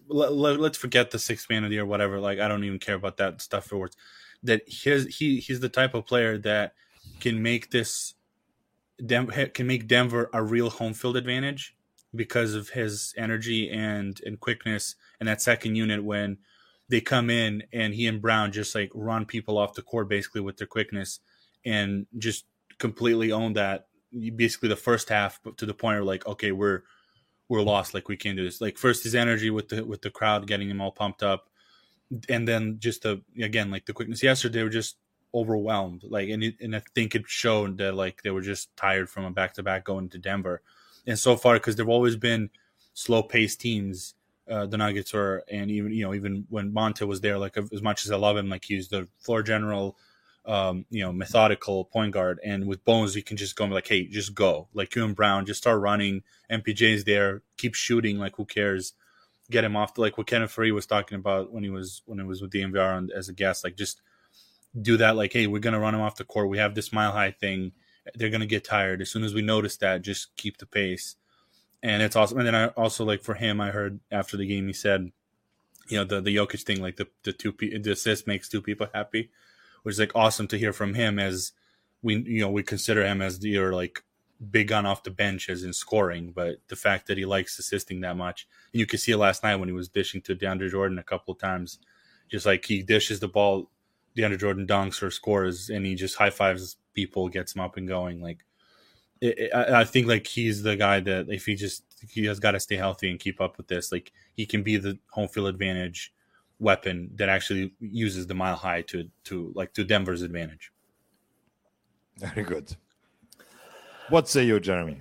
let, let, let's forget the sixth man of the year, whatever. Like, I don't even care about that stuff for words. That his, he he's the type of player that can make this Dem- can make Denver a real home field advantage because of his energy and and quickness and that second unit when they come in and he and Brown just like run people off the court basically with their quickness and just completely own that. Basically the first half to the point where like, okay, we're we're lost, like we can't do this. Like first his energy with the with the crowd getting him all pumped up, and then just the again like the quickness. Yesterday they were just overwhelmed, like and it, and I think it showed that like they were just tired from a back to back going to Denver, and so far because they've always been slow paced teams. Uh, the Nuggets were, and even you know even when Monte was there, like as much as I love him, like he's the floor general. Um, you know, methodical point guard, and with Bones, you can just go and be like, hey, just go. Like you and Brown, just start running. M P J's there, keep shooting. Like who cares? Get him off. The, like what Kenneth Faried was talking about when he was when it was with D M V R on, as a guest. Like just do that. Like, hey, we're gonna run him off the court. We have this mile high thing. They're gonna get tired as soon as we notice that. Just keep the pace, and it's awesome. And then I also like for him, I heard after the game he said, you know, the the Jokic thing, like the the two the assist makes two people happy. Which is like awesome to hear from him as we, you know, we consider him as the or like big gun off the bench as in scoring, but the fact that he likes assisting that much, and you could see it last night when he was dishing to DeAndre Jordan a couple of times, just like he dishes the ball, DeAndre Jordan dunks or scores, and he just high fives people, gets him up and going. Like it, it, I, I think like he's the guy that if he just he has got to stay healthy and keep up with this, like he can be the home field advantage weapon that actually uses the mile high to to like to Denver's advantage.
Very good. What say you, Jeremy?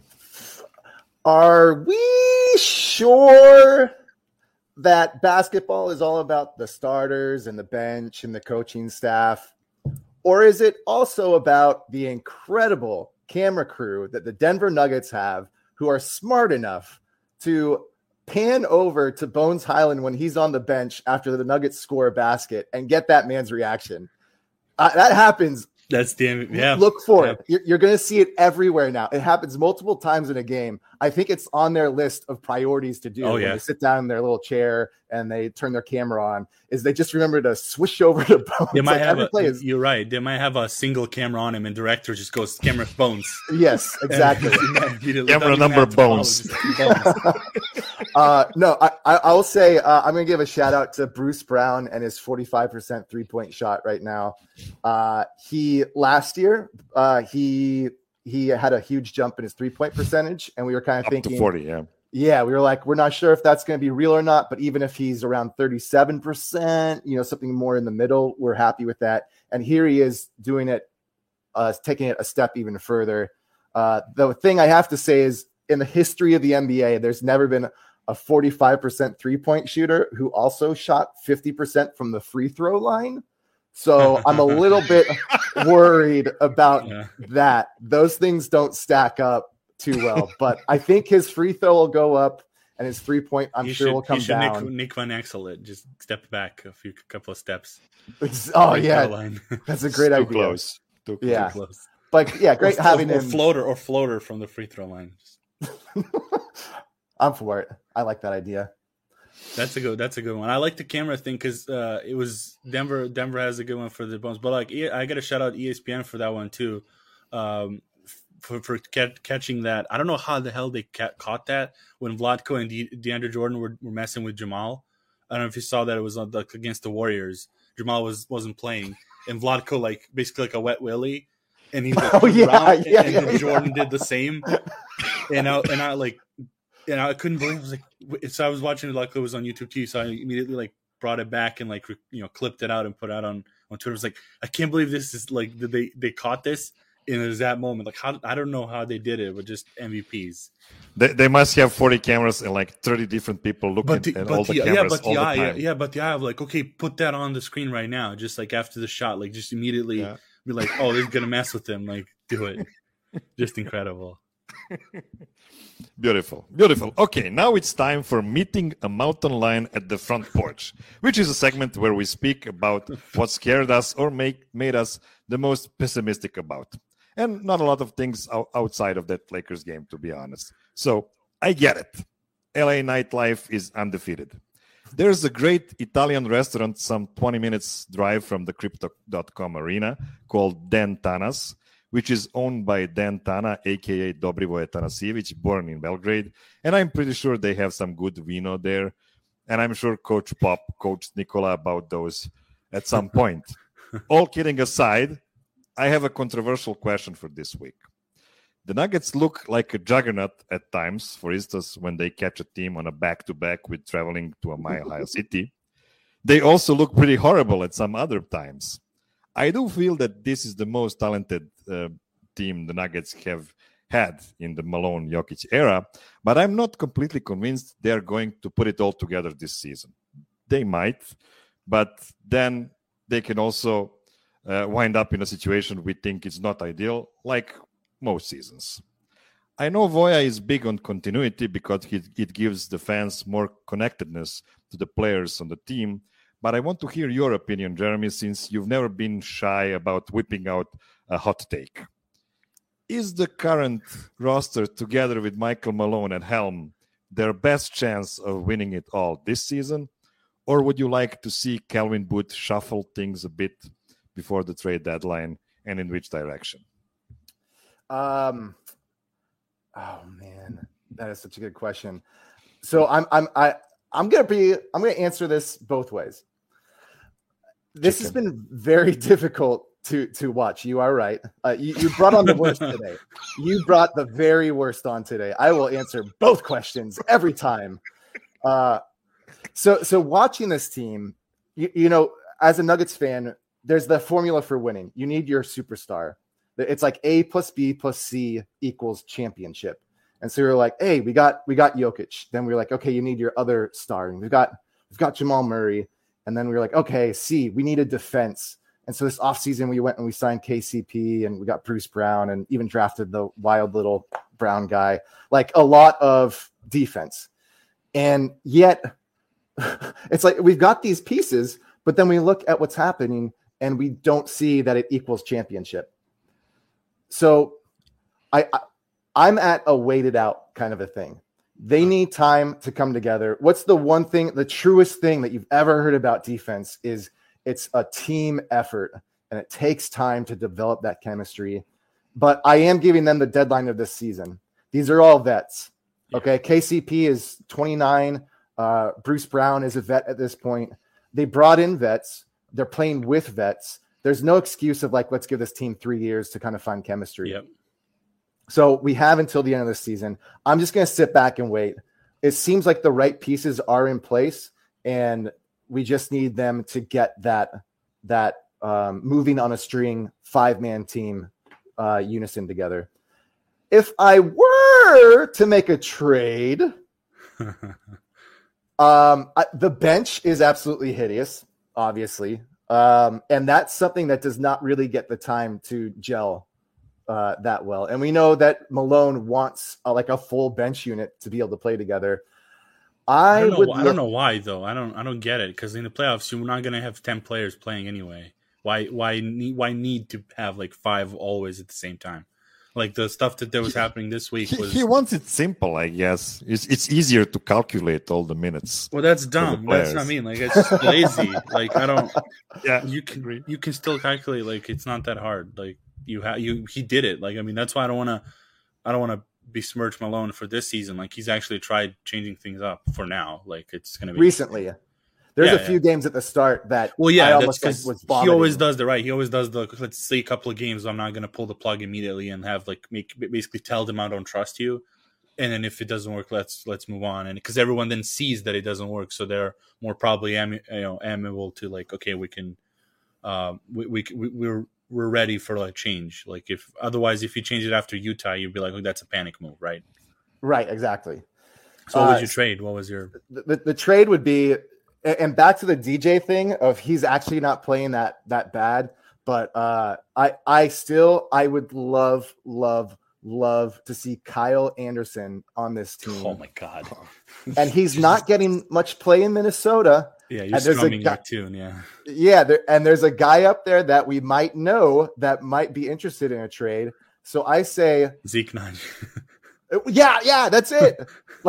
Are we sure that basketball is all about the starters and the bench and the coaching staff? Or is it also about the incredible camera crew that the Denver Nuggets have who are smart enough to pan over to Bones Hyland when he's on the bench after the Nuggets score a basket and get that man's reaction? Uh, that happens.
That's damn yeah.
Look for
yeah.
it. You're, you're going to see it everywhere now. It happens multiple times in a game. I think it's on their list of priorities to do.
Oh,
when
yeah.
they sit down in their little chair and they turn their camera on, is they just remember to swish over to Bones.
They might
like
have
every
a,
play is,
you're right. They might have a single camera on him, and director just goes camera Bones.
Yes, exactly.
Camera number Bones.
uh, no, I, I, I will say uh, I'm going to give a shout out to Bruce Brown and his forty-five percent three point shot right now. Uh, he last year uh, he he had a huge jump in his three point percentage, and we were kind of
Up
thinking,
to forty, yeah.
Yeah, we were like, we're not sure if that's going to be real or not, but even if he's around thirty-seven percent, you know, something more in the middle, we're happy with that. And here he is doing it, uh, taking it a step even further. Uh, the thing I have to say is, in the history of the N B A, there's never been a forty-five percent three-point shooter who also shot fifty percent from the free throw line. So I'm a little bit worried about
Yeah.
that. Those things don't stack up too well, but I think his free throw will go up and his three point, I'm
He
sure,
should,
will come
he should
down.
Nick, Nick Van Exel it. Just step back a few couple of steps.
Oh,
Right
yeah.
down the line.
That's a great
Too
idea.
close. Too close.
Yeah.
Close.
But yeah, great
or,
having
or,
him.
or floater or floater from the free throw line.
I'm for it. I like that idea.
That's a good. That's a good one. I like the camera thing because uh, it was Denver. Denver has a good one for the Bones, but like E- I got to shout out E S P N for that one too, um, for for ca- catching that. I don't know how the hell they ca- caught that when Vlatko and De- DeAndre Jordan were, were messing with Jamal. I don't know if you saw that. It was on, like against the Warriors. Jamal was wasn't playing, and Vlatko like basically like a wet willy, and he like,
Oh, yeah,
around,
yeah,
and, and
yeah.
Jordan did the same, and I and I like. And I couldn't believe it. I was like, so I was watching it, luckily it was on YouTube too. So I immediately like brought it back and like, you know, clipped it out and put it out on, on Twitter. I was like, I can't believe this is like, did they, they caught this in it was that moment. Like how, I don't know how they did it, but just M V Ps.
They, they must have forty cameras and like thirty different people looking
But the,
at
but
all the
the,
cameras
yeah, but
all
the
the
eye,
time.
yeah, but the eye of like, okay, put that on the screen right now. Just like after the shot, like just immediately
Yeah.
be like, oh, this is going to mess with them. Like do it. Just incredible.
Beautiful, beautiful. Okay, now it's time for Meeting a Mountain Lion at the Front Porch, which is a segment where we speak about what scared us or make, made us the most pessimistic about. And not a lot of things o- outside of that Lakers game, to be honest. So I get it. L A nightlife is undefeated. There's a great Italian restaurant some twenty minutes drive from the Crypto dot com arena called Dan Tana's, which is owned by Dan Tana, a k a. Dobrivoje Tanasijevic, born in Belgrade. And I'm pretty sure they have some good vino there. And I'm sure Coach Pop coached Nikola about those at some point. All kidding aside, I have a controversial question for this week. The Nuggets look like a juggernaut at times, for instance, when they catch a team on a back-to-back with traveling to a mile-high city. They also look pretty horrible at some other times. I do feel that this is the most talented uh, team the Nuggets have had in the Malone-Jokic era, but I'm not completely convinced they're going to put it all together this season. They might, but then they can also uh, wind up in a situation we think is not ideal, like most seasons. I know Voya is big on continuity because he, it gives the fans more connectedness to the players on the team, but I want to hear your opinion, Jeremy, since you've never been shy about whipping out a hot take. Is the current roster, together with Michael Malone at helm, their best chance of winning it all this season? Or would you like to see Calvin Booth shuffle things a bit before the trade deadline, and in which direction?
Um, oh man, that is such a good question. So I'm, I'm, I, I'm gonna be, I'm gonna answer this both ways. This Chicken. has been very difficult to to watch. You are right. Uh, you, you brought on the worst today. You brought the very worst on today. I will answer both questions every time. Uh, so so watching this team, you, you know, as a Nuggets fan, there's the formula for winning. You need your superstar. It's like A plus B plus C equals championship. And so you're like, hey, we got we got Jokic. Then we we're like, okay, you need your other star. And we've got we've got Jamal Murray. And then we were like, okay, C, we need a defense. And so this offseason we went and we signed K C P and we got Bruce Brown and even drafted the wild little brown guy. Like a lot of defense. And yet it's like we've got these pieces, but then we look at what's happening and we don't see that it equals championship. So I, I, I'm at a waited out kind of a thing. They need time to come together. What's the one thing, the truest thing that you've ever heard about defense is it's a team effort, and it takes time to develop that chemistry. But I am giving them the deadline of this season. These are all vets. Okay, K C P is twenty-nine. Uh, Bruce Brown is a vet at this point. They brought in vets. They're playing with vets. There's no excuse of like, let's give this team three years to kind of find chemistry.
Yep.
So we have until the end of the season. I'm just going to sit back and wait. It seems like the right pieces are in place, and we just need them to get that that um, moving on a string five-man team uh, unison together. If I were to make a trade, um, I, the bench is absolutely hideous, obviously. Um, and that's something that does not really get the time to gel uh, that well. And we know that Malone wants uh, like a full bench unit to be able to play together. I,
I don't know.
would
I
look-
don't know why though. I don't. I don't get it, because in the playoffs you're not going to have ten players playing anyway. Why? Why need? Why need to have like five always at the same time? Like the stuff that there was happening this week
He,
was.
he wants it simple, I guess. It's it's easier to calculate all the minutes.
Well, that's dumb. That's what I mean. Like it's just lazy. Like I don't.
Yeah,
You can you can still calculate. Like it's not that hard. Like you have you he did it. Like I mean that's why I don't want to. I don't want to besmirch Malone for this season. Like he's actually tried changing things up for now. Like it's going to be
recently. There's
Yeah,
a few
yeah.
games at the start that
Well, yeah,
I
that's
almost think
because
was
he
vomiting.
always does the right. He always does the let's say a couple of games. I'm not going to pull the plug immediately and have like make basically tell them I don't trust you, and then if it doesn't work, let's let's move on. And because everyone then sees that it doesn't work, so they're more probably am, you know amenable to like okay we can, uh, we we we we're we're ready for like change. Like if otherwise if you change it after Utah, you'd be like oh, that's a panic move, right?
Right, exactly.
So what would
Uh,
you trade? What was your
The, the, the trade would be, and back to the D J thing of he's actually not playing that that bad, but uh, I I still I would love love love to see Kyle Anderson on this team.
oh my god?
And he's not getting much play in Minnesota.
Yeah, you're
and there's a
strumming
guy-
your tune. Yeah.
Yeah, there, and there's a guy up there that we might know that might be interested in a trade. So I say,
Zeke nine.
yeah, yeah, that's it. Like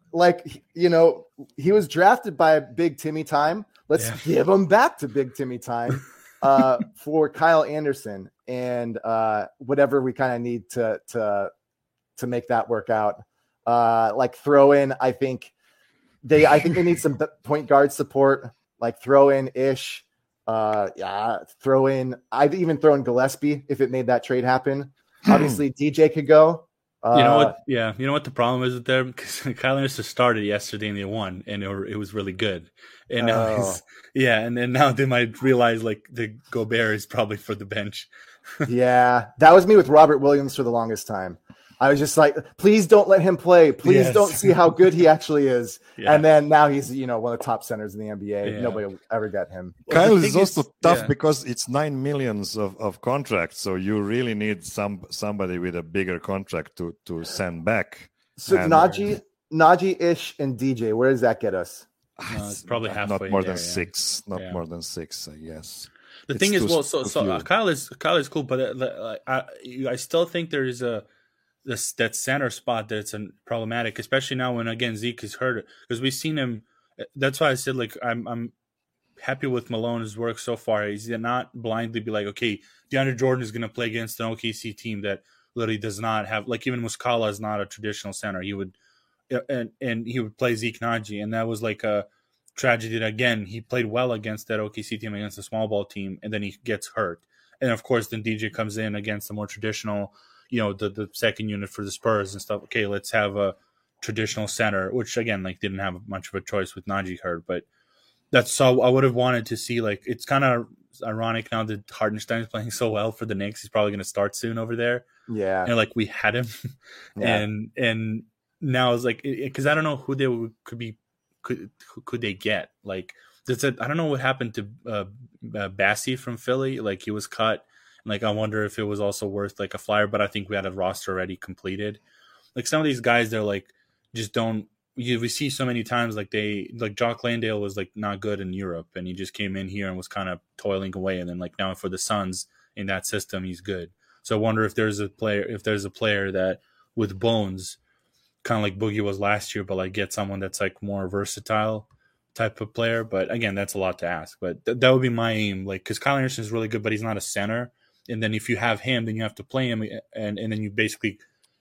like, you know, he was drafted by Big Timmy Time. Let's yeah. give him back to Big Timmy Time uh, for Kyle Anderson and uh, whatever we kind of need to to to make that work out. Uh, like throw in, I think they I think they need some point guard support. Like throw in Ish. Uh, yeah, throw in. I'd even throw in Gillespie if it made that trade happen. Obviously, D J could go.
You know what? Yeah, you know what the problem is with them, because Kyle Anderson started yesterday and they won, and it, it was really good. And now,
Oh.
he's, yeah, and then now they might realize like the Gobert is probably for the bench.
Yeah, that was me with Robert Williams for the longest time. I was just like, please don't let him play. Please
Yes.
don't see how good he actually is.
Yeah.
And then now he's, you know, one of the top centers in the N B A.
Yeah.
Nobody will ever get him.
Well,
Kyle
the
is
thing
also
is-
tough
yeah.
because it's nine millions of, of contracts, so you really need some somebody with a bigger contract to to send back.
So
And-
Najee, Najee, Ish, and D J, where does that get us?
No, it's probably
not
halfway
more
there,
than
yeah.
six, not
Yeah.
more than six, I guess.
The
It's
thing is,
too-
well, so
too
so
few.
uh, Kyle is Kyle is cool, but uh, like, I I still think there is a this that center spot that's an problematic, especially now when again Zeke is hurt, because we've seen him. That's why I said like I'm I'm happy with Malone's work so far. He's not blindly be like, okay, DeAndre Jordan is going to play against an O K C team that literally does not have, like, even Muscala is not a traditional center. He would and and he would play Zeke Naji, and that was like a tragedy that, again, he played well against that O K C team, against a small ball team, and then he gets hurt. And of course, then D J comes in against the more traditional, you know, the, the second unit for the Spurs and stuff. Okay, let's have a traditional center, which again, like, didn't have much of a choice with Najee hurt, but that's so I would have wanted to see. Like, it's kind of ironic now that Hartenstein is playing so well for the Knicks. He's probably going to start soon over there.
Yeah.
And like, we had him,
Yeah.
and and now it's like, because I don't know who they would, could be, could who could they get? Like, that's a, I don't know what happened to uh, uh, Bassie from Philly. Like, he was cut. Like, I wonder if it was also worth like a flyer, but I think we had a roster already completed. Like, some of these guys, they're like, just don't, you, we see so many times, like they, like Jock Landale was like not good in Europe, and he just came in here and was kind of toiling away. And then like now for the Suns in that system, he's good. So I wonder if there's a player, if there's a player that with bones, kind of like Boogie was last year, but like get someone that's like more versatile type of player. But again, that's a lot to ask, but th- that would be my aim. Like, cause Kyle Anderson is really good, but he's not a center. And then if you have him, then you have to play him, and, and then you basically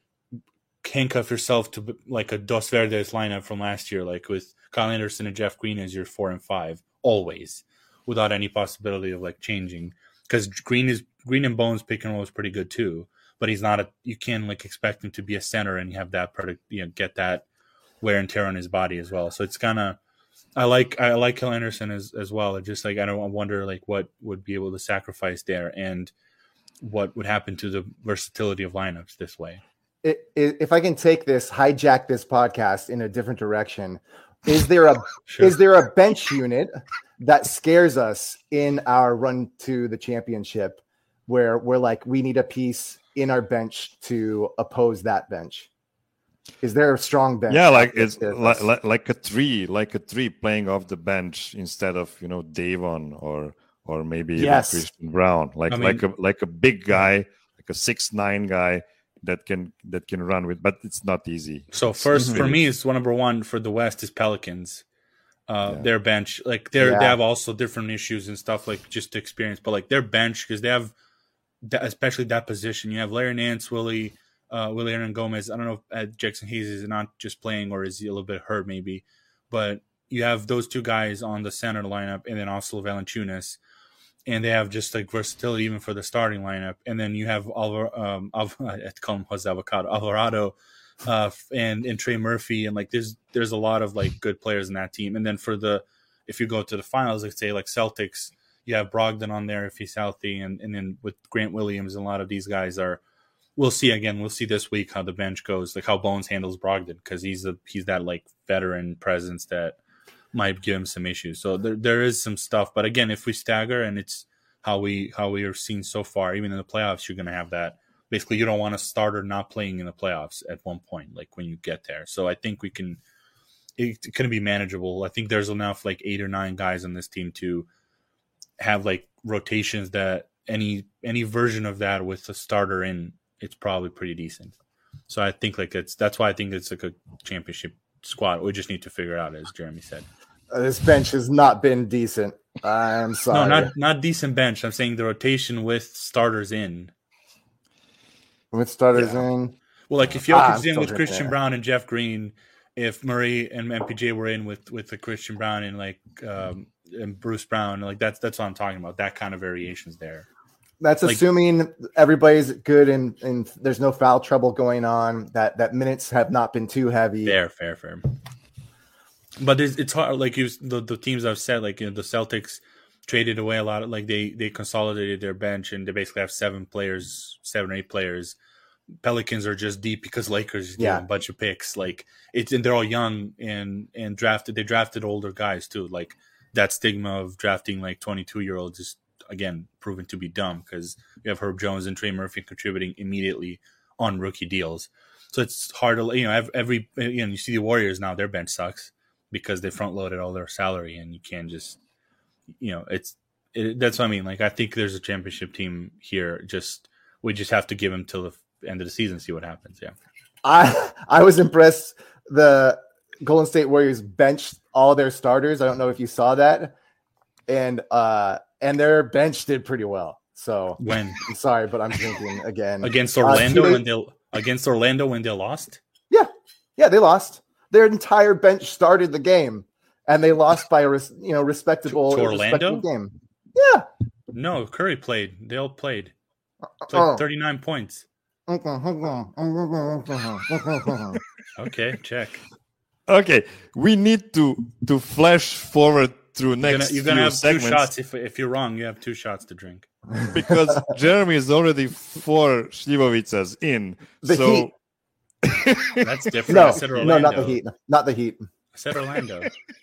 handcuff yourself to like a Dos Verdes lineup from last year, like with Kyle Anderson and Jeff Green as your four and five always, without any possibility of like changing. Because Green is Green and Bones pick and roll is pretty good too, but he's not a. You can't like expect him to be a center and have that product, you know, get that wear and tear on his body as well. So it's kind of. I like I like Kyle Anderson as as well. It's just like I don't I wonder like what would be able to sacrifice there, and what would happen to the versatility of lineups this way.
It, it, if I can take this, hijack this podcast in a different direction, is there a
Sure.
is there a bench unit that scares us in our run to the championship, where we're like, we need a piece in our bench to oppose that bench? Is there a strong bench?
Yeah, like
that
it's
scares
like,
us?
like like a tree, like a tree playing off the bench instead of, you know, Davon or or maybe even
Yes.
Christian Brown, like
I mean-
like a like a big guy, like a six nine guy that can that can run with, but it's not easy.
So
It's
first for
really-
me, it's one number one for the West is Pelicans. Uh,
Yeah.
Their bench, like they're
Yeah.
they have also different issues and stuff, like just experience, but like their bench, because they have that, especially that position. You have Larry Nance, Willie, uh, Willie Hernan Gomez. I don't know if uh, Jackson Hayes is not just playing, or is he a little bit hurt maybe, but you have those two guys on the center lineup, and then also Valanciunas. And they have just like versatility even for the starting lineup. And then you have Alvar, um, Alvar, I call him Jose Avocado, Alvarado, uh, and and Trey Murphy, and like there's there's a lot of like good players in that team. And then for the if you go to the finals, like say like Celtics, you have Brogdon on there if he's healthy, and and then with Grant Williams, and a lot of these guys are. We'll see again. We'll see this week how the bench goes, like how Bones handles Brogdon, because he's a he's that like veteran presence that might give him some issues. So there there is some stuff, but again, if we stagger and it's how we how we are seen so far, even in the playoffs, you're going to have that. Basically, you don't want a starter not playing in the playoffs at one point, like when you get there. So I think we can. It, it can be manageable. I think there's enough like eight or nine guys on this team to have like rotations that any any version of that with a starter in, it's probably pretty decent. So I think like it's that's why I think it's like a championship squad. We just need to figure it out, as Jeremy said.
Uh, this bench has not been decent. I'm sorry.
No, not not decent bench. I'm saying the rotation with starters in.
With starters
yeah.
in.
Well, like if Jokic's
ah,
in with Christian
there.
Brown and Jeff Green, if Murray and M P J were in with with the Christian Brown and like um, and Bruce Brown, like that's that's what I'm talking about. That kind of variations there.
That's like, assuming everybody's good and, and there's no foul trouble going on. That that minutes have not been too heavy.
Fair, fair, fair. But it's, it's hard. Like you, the the teams I've said, like you know, the Celtics traded away a lot of like they they consolidated their bench and they basically have seven players, seven or eight players. Pelicans are just deep because Lakers yeah. do a bunch of picks. Like it's and they're all young and and drafted. They drafted older guys too. Like that stigma of drafting like twenty-two year olds is again proven to be dumb because you have Herb Jones and Trey Murphy contributing immediately on rookie deals. So it's hard to you know every you know you see the Warriors now their bench sucks because they front loaded all their salary and you can't just you know it's it, that's what I mean. Like I think there's a championship team here. Just we just have to give them till the end of the season, see what happens. Yeah,
I I was impressed. The Golden State Warriors benched all their starters. I don't know if you saw that, and uh, and their bench did pretty well. So
when
I'm sorry, but I'm thinking again
against Orlando uh, when they against Orlando when they lost.
Yeah, yeah, they lost. Their entire bench started the game, and they lost by a res, you know respectable,
to, to Orlando
respectable game. Yeah.
No, Curry played. They all played. Played oh. thirty-nine points. Okay, check.
Okay, we need to to flash forward through next.
You're gonna, you're gonna have
segments.
two shots. If if you're wrong, you have two shots to drink.
Because Jeremy is already four Slivovicas in.
The
so
Heat.
That's different.
No,
I said Orlando.
no, not the Heat. Not the Heat.
I said Orlando.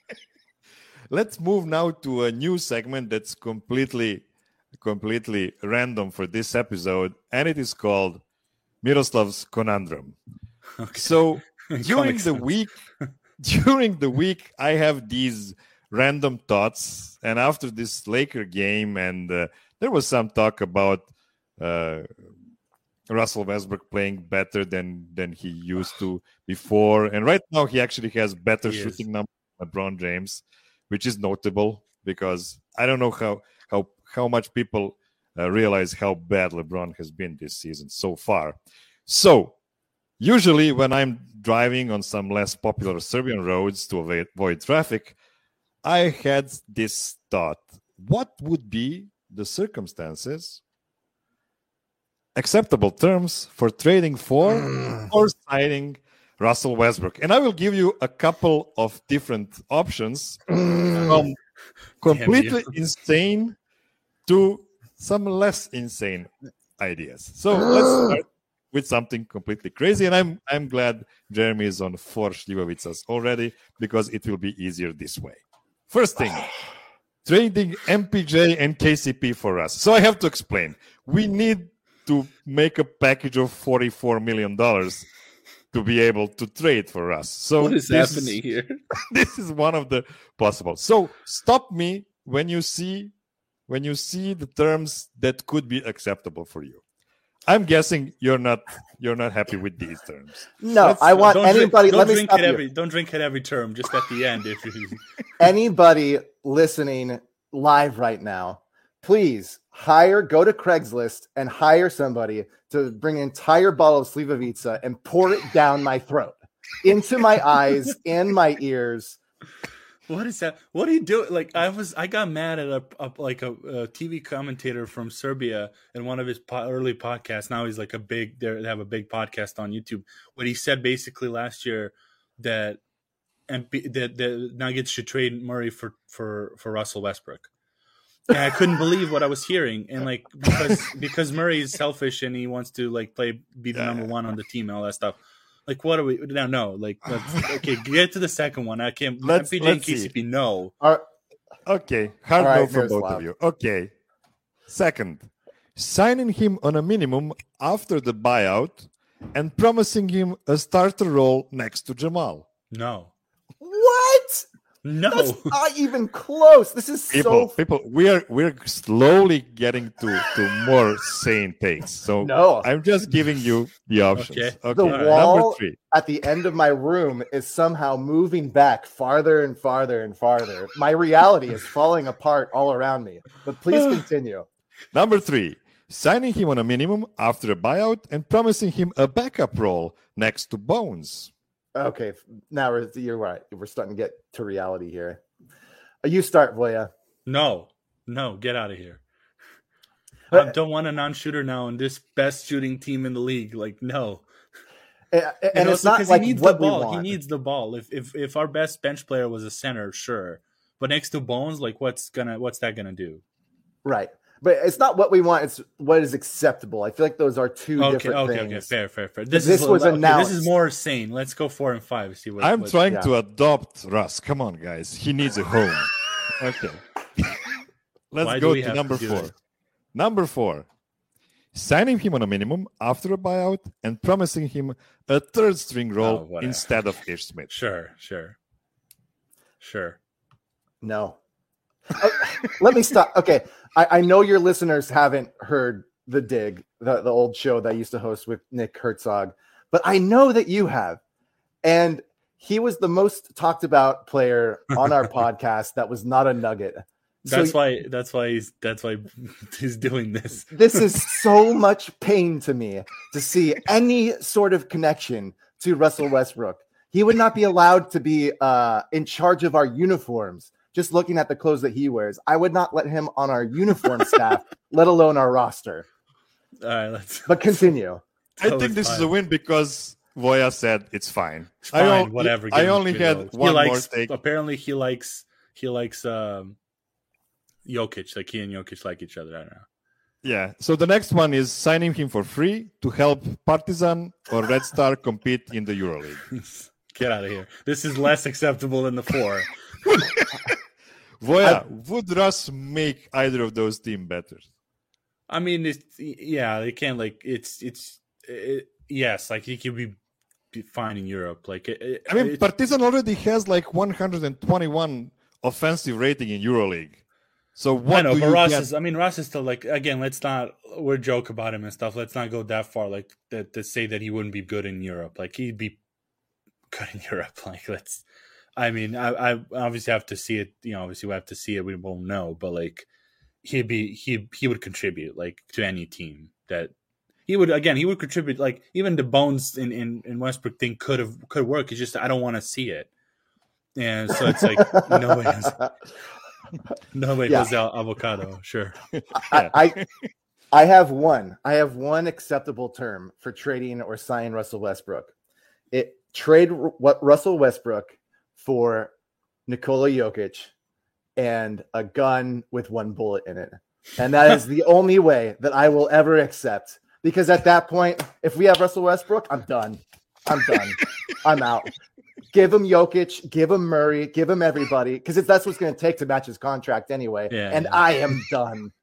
Let's move now to a new segment that's completely, completely random for this episode, and it is called Miroslav's Conundrum. Okay. So during the week, during the week, I have these random thoughts, and after this Laker game, and uh, there was some talk about uh, Russell Westbrook playing better than than he used to before, and right now he actually has better
he
shooting
is.
numbers than LeBron James, which is notable because I don't know how how how much people uh, realize how bad LeBron has been this season so far. So usually when I'm driving on some less popular Serbian roads to avoid, avoid traffic, I had this thought: what would be the circumstances, acceptable terms for trading for mm. or signing Russell Westbrook? And I will give you a couple of different options mm. from completely insane to some less insane ideas. So mm. let's start with something completely crazy. And I'm I'm glad Jeremy is on four Slivovicas already because it will be easier this way. First thing, trading M P J and K C P for us. So I have to explain. We need to make a package of forty-four million dollars to be able to trade for us. So
what is happening is, here?
This is one of the possible. So stop me when you see when you see the terms that could be acceptable for you. I'm guessing you're not you're not happy with these terms.
No,
Let's,
I want
don't
anybody.
Drink,
let
don't
me
drink
stop
at
you.
every don't drink at every term. Just at the end, if you
Anybody listening live right now, please hire. Go to Craigslist and hire somebody to bring an entire bottle of Slivovica and pour it down my throat, into my eyes, and my ears.
What is that? What do you do? Like I was, I got mad at a, a like a, a T V commentator from Serbia in one of his po- early podcasts. Now he's like a big. They have a big podcast on YouTube. What he said basically last year that and that the Nuggets should trade Murray for for for Russell Westbrook. And I couldn't believe what I was hearing. And like because because Murray is selfish and he wants to like play be the number one on the team and all that stuff. Like, what are we? No, no. Like, let's, okay, get to the second one. I can't.
Let's,
M P J and K C P, no.
All right.
Okay, hard
right,
no from both
loud.
of you. Okay. Second, signing him on a minimum after the buyout and promising him a starter role next to Jamal.
No.
What?
No,
That's not even close. This is
People,
so.
people, we are we're slowly getting to, to more sane takes. So
No.
I'm just giving you the options.
Okay.
Okay.
The
Number
wall
three.
at the end of my room is somehow moving back farther and farther and farther. My reality is falling apart all around me. But please continue.
Number three. Signing him on a minimum after a buyout and promising him a backup role next to Bones.
Okay, now we're, you're right. We're starting to get to reality here. You start, Voya.
no, no, get out of here. I
But-
don't want a non-shooter now in this best shooting team in the league. Like, no.
And, and
And
it's
also
not
'cause
like
he needs
what
the ball.
we
He
want.
needs the ball. If if if our best bench player was a center, sure. But next to Bones, like what's gonna what's that gonna do?
Right. But it's not what we want. It's what is acceptable. I feel like those are two
Okay,
different
okay,
things.
okay, fair, fair, fair. This,
This
is
was
okay,
announced.
This is more sane. Let's go four and five. See what
I'm
what,
trying
yeah.
to adopt Russ. Come on, guys. He needs a home. Okay. Let's
Why do
go
we
to
have
number
to do
four.
it?
Number four. Signing him on a minimum after a buyout and promising him a third string
Oh,
role
whatever.
instead of Ish Smith.
Sure, sure, sure.
No. Uh, Let me stop. Okay. I, I know your listeners haven't heard The Dig, the, the old show that I used to host with Nick Herzog, but I know that you have. And he was the most talked about player on our podcast that was not a Nugget. So
That's why. That's why he's. That's why he's doing this.
this is so much pain to me to see any sort of connection to Russell Westbrook. He would not be allowed to be uh, in charge of our uniforms. Just looking at the clothes that he wears, I would not let him on our uniform staff, let alone our roster.
All right, let's.
But continue.
I
So
think
it's
this is
fine.
a win because Voya said it's fine.
It's fine,
I, on-
whatever.
I
give him
only
three
had
goals. He
one more
likes,
take.
Apparently, he likes. He likes. Um, Jokic. Like he and Jokic like each other. I don't know.
Yeah. So the next one is signing him for free to help Partizan or Red Star compete in the EuroLeague.
Get out of here. This is less acceptable than the four.
Voya, would Russ make either of those teams better?
I mean, it's yeah, they can't like it's it's it, yes, like he could be, be fine in Europe. Like it, it,
I mean,
it's-
Partizan already has like one hundred twenty-one offensive rating in EuroLeague. So what
I know,
do
but
you
Ross
get?
is. I mean, Ross is still like again. Let's not we're joke about him and stuff. Let's not go that far. Like that to say that he wouldn't be good in Europe. Like he'd be good in Europe. Like let's. I mean, I, I obviously have to see it. You know, obviously we have to see it. We won't know, but like he'd be he he would contribute like to any team that he would. Again, he would contribute. Like even the Bones in in, in Westbrook thing could have could work. It's just I don't want to see it. And so it's like nobody has. Nobody
Yeah.
was al- avocado, sure.
I, I I have one. I have one acceptable term for trading or signing Russell Westbrook. It trade Ru- what Russell Westbrook for Nikola Jokic and a gun with one bullet in it. And that is the only way that I will ever accept. Because at that point, if we have Russell Westbrook, I'm done. I'm done. I'm out. Give him Jokic, give him Murray, give him everybody, because that's what's going to take to match his contract anyway.
Yeah,
and
yeah.
I am done.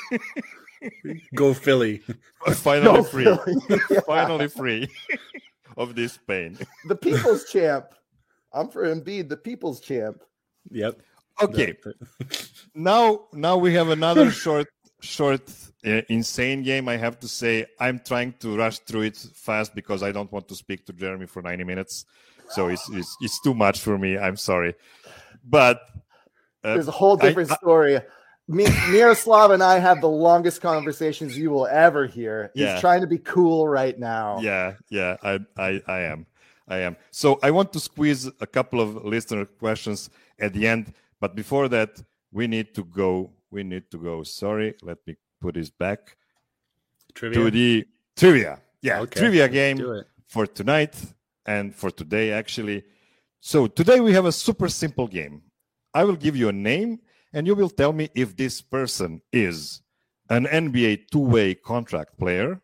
Go Philly.
Finally
Go
free.
Philly. Yeah.
Finally free of this pain.
The people's champ. I'm for Embiid, the people's champ.
Yep.
Okay. Now, now we have another short, short, uh, insane game. I have to say, I'm trying to rush through it fast because I don't want to speak to Jeremy for ninety minutes. So it's it's, it's too much for me. I'm sorry, but uh,
There's a whole different
I- I-
story. Me, Miroslav and I have the longest conversations you will ever hear. He's
Yeah.
trying to be cool right now.
yeah, yeah, I, I, I am, I am. So I want to squeeze a couple of listener questions at the end, but before that, we need to go. We need to go. Sorry, let me put this back
Trivia.
to the trivia. Yeah,
Okay,
trivia
let's
game
do it.
for tonight and for today, actually. So today we have a super simple game. I will give you a name, and you will tell me if this person is an N B A two-way contract player,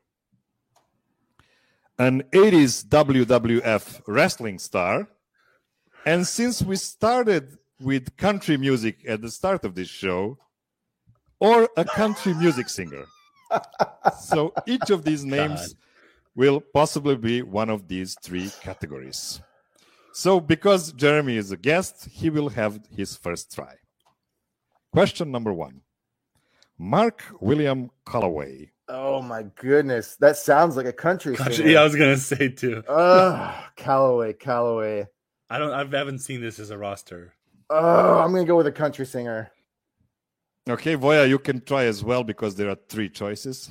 an eighties W W F wrestling star, and since we started with country music at the start of this show, or a country music singer. So each of these names
God.
will possibly be one of these three categories. So, because Jeremy is a guest, he will have his first try. Question number one. Mark William Calloway.
Oh my goodness, that sounds like a country
Country,
singer.
yeah, I was gonna say too.
Oh, Calloway, Calloway.
I don't. I haven't seen this as a roster.
Oh, I'm gonna go with a country singer.
Okay, Voya, you can try as well because there are three choices.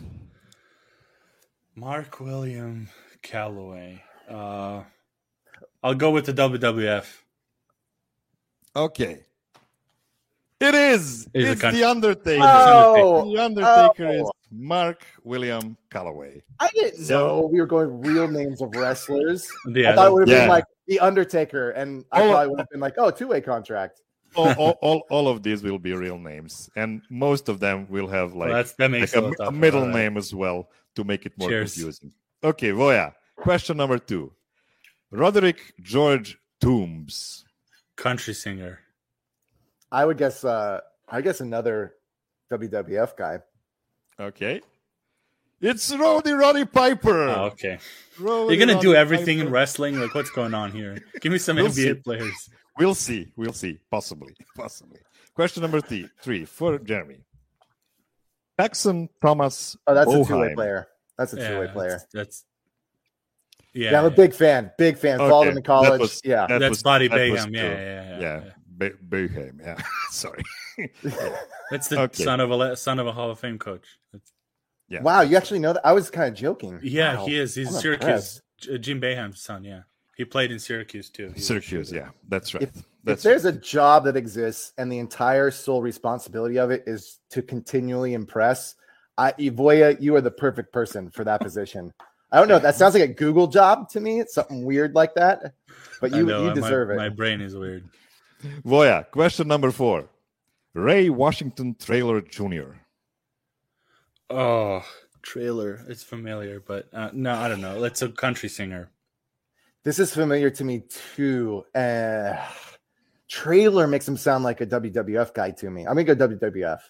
Mark William Calloway. Uh, I'll go with the W W F.
Okay. It is.
Is
It's
a country-
The Undertaker.
Oh,
The Undertaker
oh.
is Mark William Calloway.
I didn't know we were going real names of wrestlers.
Yeah,
I thought it would have
yeah.
been like The Undertaker, and I
Oh.
probably would have been like, oh, two-way contract.
all, all, all, all of these will be real names, and most of them will have like,
Well, that's, that makes
like
it
a,
little
a
tougher.
middle
All right.
name as well to make it more
Cheers.
confusing. Okay, Voya. Question number two. Roderick George Toombs.
Country singer.
I would guess. Uh, I guess another W W F guy.
Okay. It's Roddy Roddy Piper.
Oh, okay.
Roddy
You're gonna do
Roddy
everything in
Piper.
wrestling. Like, what's going on here? Give me some
We'll
N B A
see.
players.
We'll see. We'll see. Possibly. Possibly. Question number three, three for Jeremy. Paxson Thomas.
Oh, that's a
Boheim.
two-way player. That's a
Yeah,
two-way player.
That's, that's yeah.
Yeah, I'm a big fan. Big fan. Followed
Okay,
him in
that
college.
was-
yeah.
that
That's
was-
Body
that was
Bayham. Yeah,
true.
yeah, yeah,
Yeah,
yeah.
Be- Boeheim. Yeah, sorry.
That's the
Okay.
son of a le- son of a Hall of Fame coach. That's,
Yeah.
Wow, you actually know that? I was kind of joking.
yeah,
Wow.
he is. He's
I'm
Syracuse.
impressed.
J- Jim Boeheim's son. Yeah, he played in Syracuse too. He was a
Syracuse.
shooter.
Yeah, that's right.
If, if
that's
there's a job that exists and the entire sole responsibility of it is to continually impress, I, Ivoya, you are the perfect person for that position. I don't know. That sounds like a Google job to me. It's something weird like that, but
I
you
know,
you
my-
deserve
My
it.
brain is weird.
Voya. Question number four. Ray Washington Traylor Junior
Oh, trailer. It's familiar, but uh, no, I don't know. It's a country singer.
This is familiar to me too. Uh, trailer makes him sound like a W W F guy to me. I'm gonna go W W F.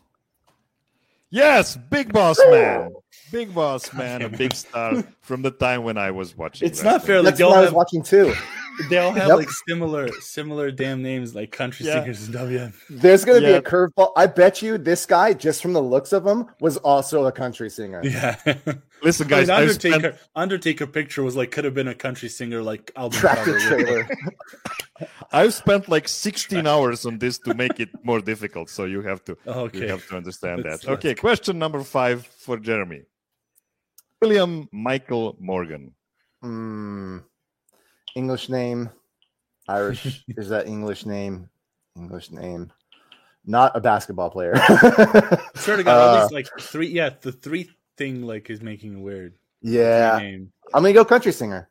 Yes, Big Boss Man. Big Boss Man, a big star from the time when I was watching.
It's not
wrestling.
fair. Like,
That's
they
what
all
I was
have,
watching too.
they all have
Yep.
like similar, similar damn names, like country
Yeah.
singers in W W F.
There's gonna be
Yeah.
a curveball. I bet you this guy, just from the looks of him, was also a country singer.
Yeah.
Listen,
I
guys,
mean,
I've
Undertaker.
spent,
Undertaker picture was like could have been a country singer, like album
Tractor
cover.
trailer.
I've spent like sixteen hours on this to make it more difficult. So you have to,
Okay.
you have to understand
Let's-
that. Okay, question number five for Jeremy. William Michael Morgan.
Hmm. English name. Irish. Is that English name? English name. Not a basketball player.
Swear to God,
Uh,
at least like three. Yeah, the three thing like is making it weird.
yeah.
Three name.
I'm gonna go country singer.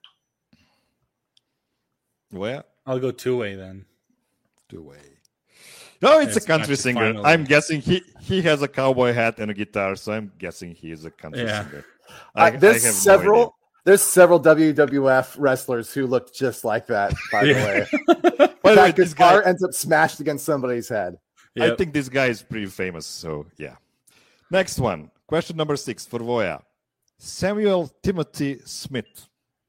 Well,
I'll go two way then.
two way. No, it's
It's
a country
country,
singer.
finally.
I'm guessing he he has a cowboy hat and a guitar, so I'm guessing he is a country
Yeah.
singer.
Uh, there's
have no
several.
idea.
there's several W W F wrestlers who look just like that. By
Yeah.
the way,
By the way,
that
this
guitar
guy,
ends up smashed against somebody's head.
I
Yep.
think this guy is pretty famous. So yeah. Next one. Question number six for Voya. Samuel Timothy Smith.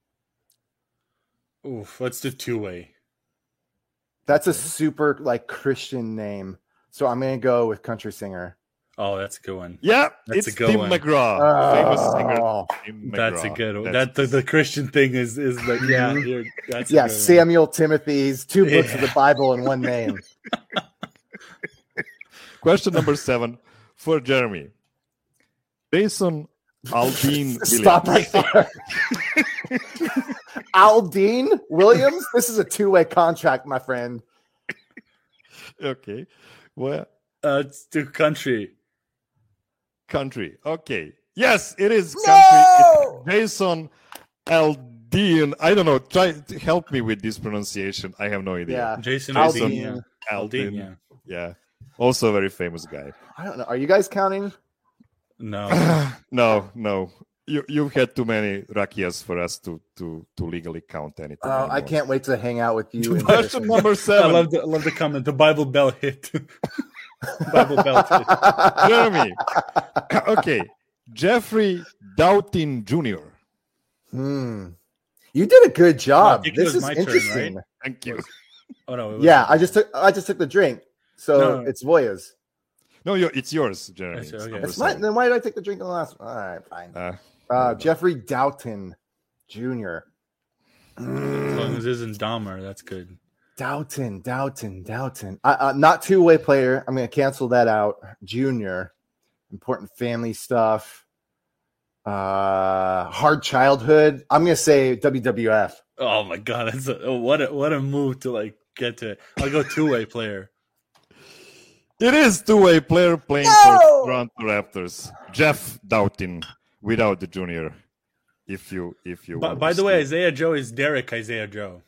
Oof, let's do two way.
That's a super like Christian name, so I'm gonna go with country singer.
Oh, that's a good one.
Yeah,
That's a
it's
good
Tim
one.
McGraw, famous singer.
Oh,
Tim
That's a
McGraw.
good one.
That's-
That the, the Christian thing is is like yeah, you're, that's a
yeah,
good one.
Samuel Timothy's two books of
Yeah.
the Bible in one name.
Question number seven for Jeremy. Jason Aldean Williams.
Stop right there. Aldine Williams. This is a two-way contract, my friend.
Okay. Well,
Uh, it's to country.
country. Okay. Yes, it is country.
No!
It's Jason Aldean. I don't know. Try to help me with this pronunciation. I have no idea.
Yeah,
Jason
Aldean.
Aldean. Yeah. Aldean, yeah.
Yeah. Also a very famous guy.
I don't know. Are you guys counting?
No.
no, no. You you've had too many rakias for us to to to legally count anything.
Oh, I
anymore.
can't wait to hang out with you. in
Question
person.
number
I
seven.
love the I love the comment. The Bible bell hit. Bible bell hit.
Jeremy. Okay. Jeffrey Doughton Junior
Hmm. You did a good job.
I think it
This
was
is
my turn,
interesting.
right?
Thank you.
Oh no. It was
Yeah, I just took I just took the drink. So
No, no.
it's Voya's.
No, you it's yours, Jeremy.
That's-
It's
okay.
number
It's mine.
seven.
Then why did I take the drink in the last one? All right, fine.
Uh,
Uh, Jeffrey Doughton Junior
As long as it isn't Dahmer, that's good.
Doughton, Doughton, Doughton. Uh, uh, not two-way player. I'm going to cancel that out. Junior. Important family stuff. Uh, hard childhood. I'm going to say W W F.
Oh my god, that's a, oh, what a what a move to like get to. I'll go two way player.
It is two-way player playing
No!
for Toronto Raptors. Jeff Doughton without the junior. If you if you
By,
want
by
to
the way,
see.
Isaiah Joe is Derek Isaiah Joe.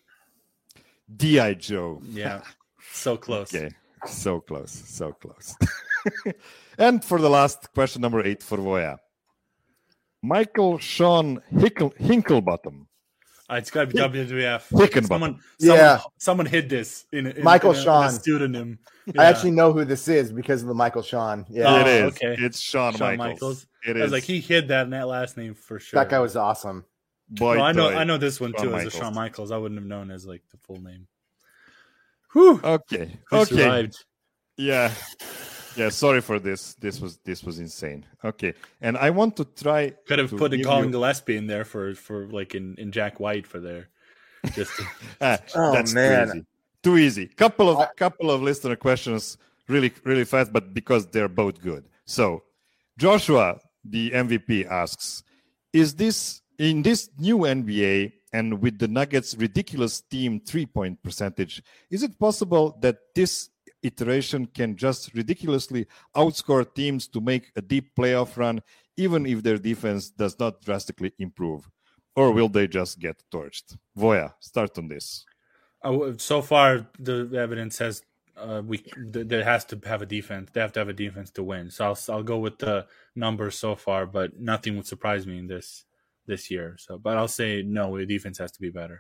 D I Joe.
Yeah, so close.
Okay, so close, so close. And for the last question, number eight for Voya. Michael Sean Hickle, Hinklebottom.
Uh, it's got to be W W F.
Hickenbottom.
Someone,
Yeah.
someone, someone hid this in, in
Michael
in a,
Sean.
in a pseudonym.
I
Yeah.
actually know who this is because of the Michael Sean. Yeah,
Oh,
it is.
okay.
It's Shawn,
Shawn
Michaels.
Michaels.
It
I was
is.
like, he hid that in that last name for sure.
that guy was awesome.
Boy,
No, I know,
toy.
I know this one
Shawn
too. As a
Michaels.
Shawn Michaels, I wouldn't have known as like the full name. Whew.
Okay.
We
Okay.
survived.
Yeah. Yeah. Sorry for this. This was this was insane. Okay. And I want to try.
Could have
to
put a
give
Colin
you-
Gillespie in there for for like in, in Jack White for there. Just to,
Ah,
Oh,
that's
man.
too easy. Too easy. Couple of
I-
couple of listener questions, really really fast, but because they're both good. So, Joshua, the M V P, asks: Is this in this new N B A and with the Nuggets' ridiculous team three-point percentage? Is it possible that this iteration can just ridiculously outscore teams to make a deep playoff run, even if their defense does not drastically improve? Or will they just get torched? Voya, start on this.
uh, so far, the evidence says uh, we th- there has to have a defense. They have to have a defense to win. So I'll I'll go with the numbers so far, but nothing would surprise me in this this year. So, but I'll say no. The defense has to be better.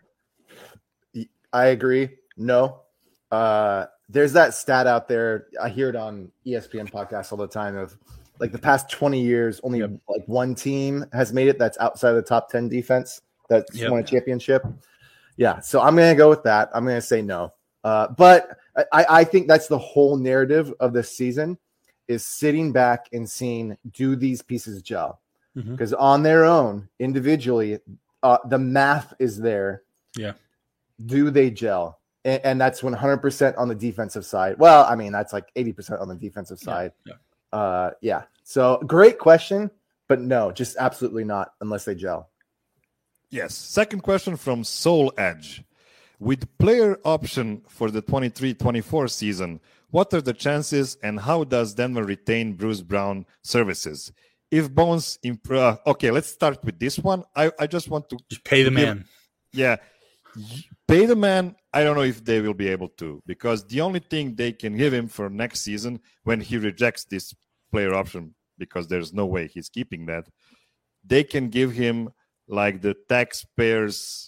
I agree. No. Uh, there's that stat out there. I hear it on E S P N podcasts all the time of like the past twenty years, only
Yep.
like one team has made it that's outside of the top ten defense that's
Yep.
won a championship. Yeah. So I'm going to go with that. I'm going to say no. Uh, but I, I think that's the whole narrative of this season is sitting back and seeing, do these pieces gel?
Mhm.
Because on their own, individually, uh, the math is there.
Yeah.
Do they gel? And, and that's one hundred percent on the defensive side. Well, I mean, that's like eighty percent on the defensive side.
Yeah.
Uh, yeah. So great question, but no, just absolutely not unless they gel.
Yes. Second question from Soul Edge. With player option for the twenty-three twenty-four season, what are the chances and how does Denver retain Bruce Brown services? If Bones improve, okay, let's start with this one. I, I just want to,
Just pay the
Give-
man.
yeah, y- pay the man. I don't know if they will be able to, because the only thing they can give him for next season when he rejects this player option, because there's no way he's keeping that, they can give him like the taxpayers,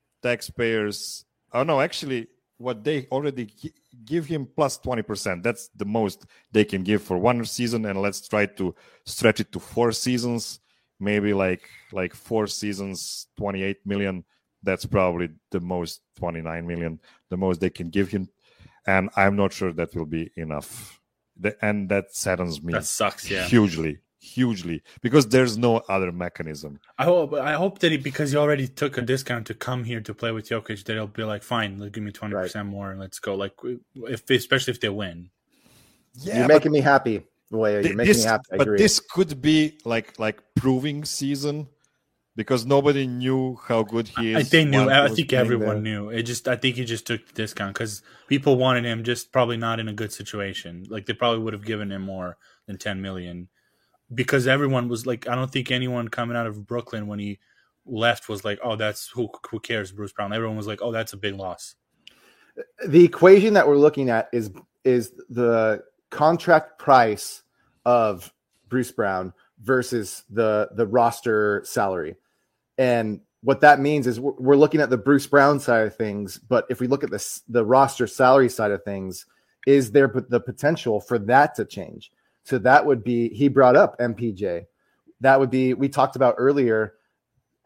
taxpayers. Oh no, actually, what they already gi- give him plus twenty percent. That's the most they can give for one season, and let's try to stretch it to four seasons. Maybe like like four seasons, twenty-eight million. That's probably the most, twenty-nine million, the most they can give him, and I'm not sure that will be enough. The, and that saddens me
That sucks. Yeah.
hugely, hugely, because there's no other mechanism.
I hope I hope that he, because he already took a discount to come here to play with Jokic, that he'll be like, fine, let's give me twenty percent more and let's go. Like, if especially if they win.
Yeah,
You're making me happy. Boy, you're
Th-
making
this,
me happy. I
but
agree.
this could be like like proving season, because nobody knew how good he is.
I think knew.
while he
I
was
think
playing
everyone
there.
knew. It just. I think he just took the discount because people wanted him. Just probably not in a good situation. Like they probably would have given him more than ten million, because everyone was like, I don't think anyone coming out of Brooklyn when he left was like, oh, that's who. Who cares, Bruce Brown? Everyone was like, oh, that's a big loss.
The equation that we're looking at is is the contract price of Bruce Brown versus the the roster salary. And what that means is we're, we're looking at the Bruce Brown side of things, but if we look at this the roster salary side of things, is there p- the potential for that to change? So that would be, he brought up M P J. That would be, we talked about earlier,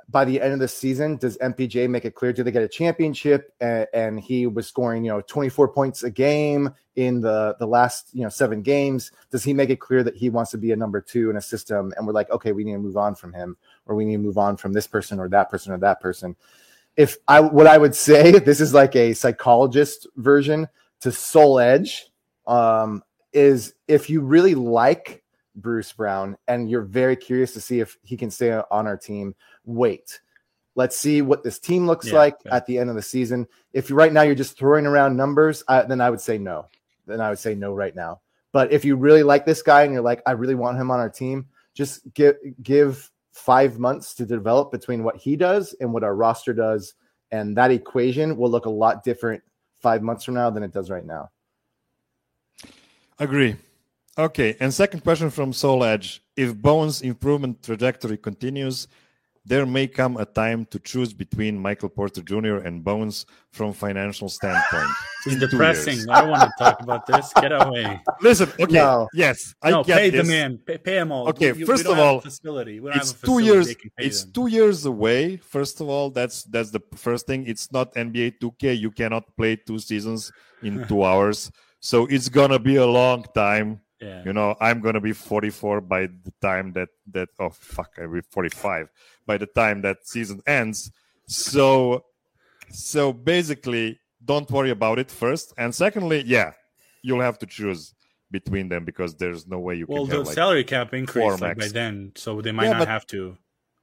by the end of the season, does M P J make it clear? Do they get a championship? And, and he was scoring, you know, twenty-four points a game in the, the last, you know, seven games. Does he make it clear that he wants to be a number two in a system? And we're like, okay, we need to move on from him, or we need to move on from this person or that person or that person. If I, what I would say, this is like a psychologist version to Soul Edge, um, is if you really like Bruce Brown and you're very curious to see if he can stay on our team, wait. Let's see what this team looks yeah, like yeah. at the end of the season. If you, right now you're just throwing around numbers, I, then I would say no. Then I would say no right now. But if you really like this guy and you're like, I really want him on our team, just give give five months to develop between what he does and what our roster does, and that equation will look a lot different five months from now than it does right now.
Agree. Okay, and second question from Soul Edge. If Bones' improvement trajectory continues, there may come a time to choose between Michael Porter Junior and Bones from financial standpoint.
It's depressing. I don't want to talk about this. Get away.
Listen, okay, no. yes, I
no,
get
pay
this.
the man. Pay, pay him all.
Okay,
we,
first
we
of all,
facility. We don't
it's
have a facility
two years.
It's
them. two years away. First of all, that's that's the first thing. It's not N B A two K. You cannot play two seasons in two hours. So it's gonna be a long time.
Yeah.
You know, I'm gonna be forty-four by the time that that oh fuck, I'll be forty-five by the time that season ends. So, so basically, don't worry about it first, and secondly, yeah, you'll have to choose between them because there's no way you
well,
can.
Well, the
have, like,
salary cap increased like, by then, so they might
yeah,
not
but,
have to.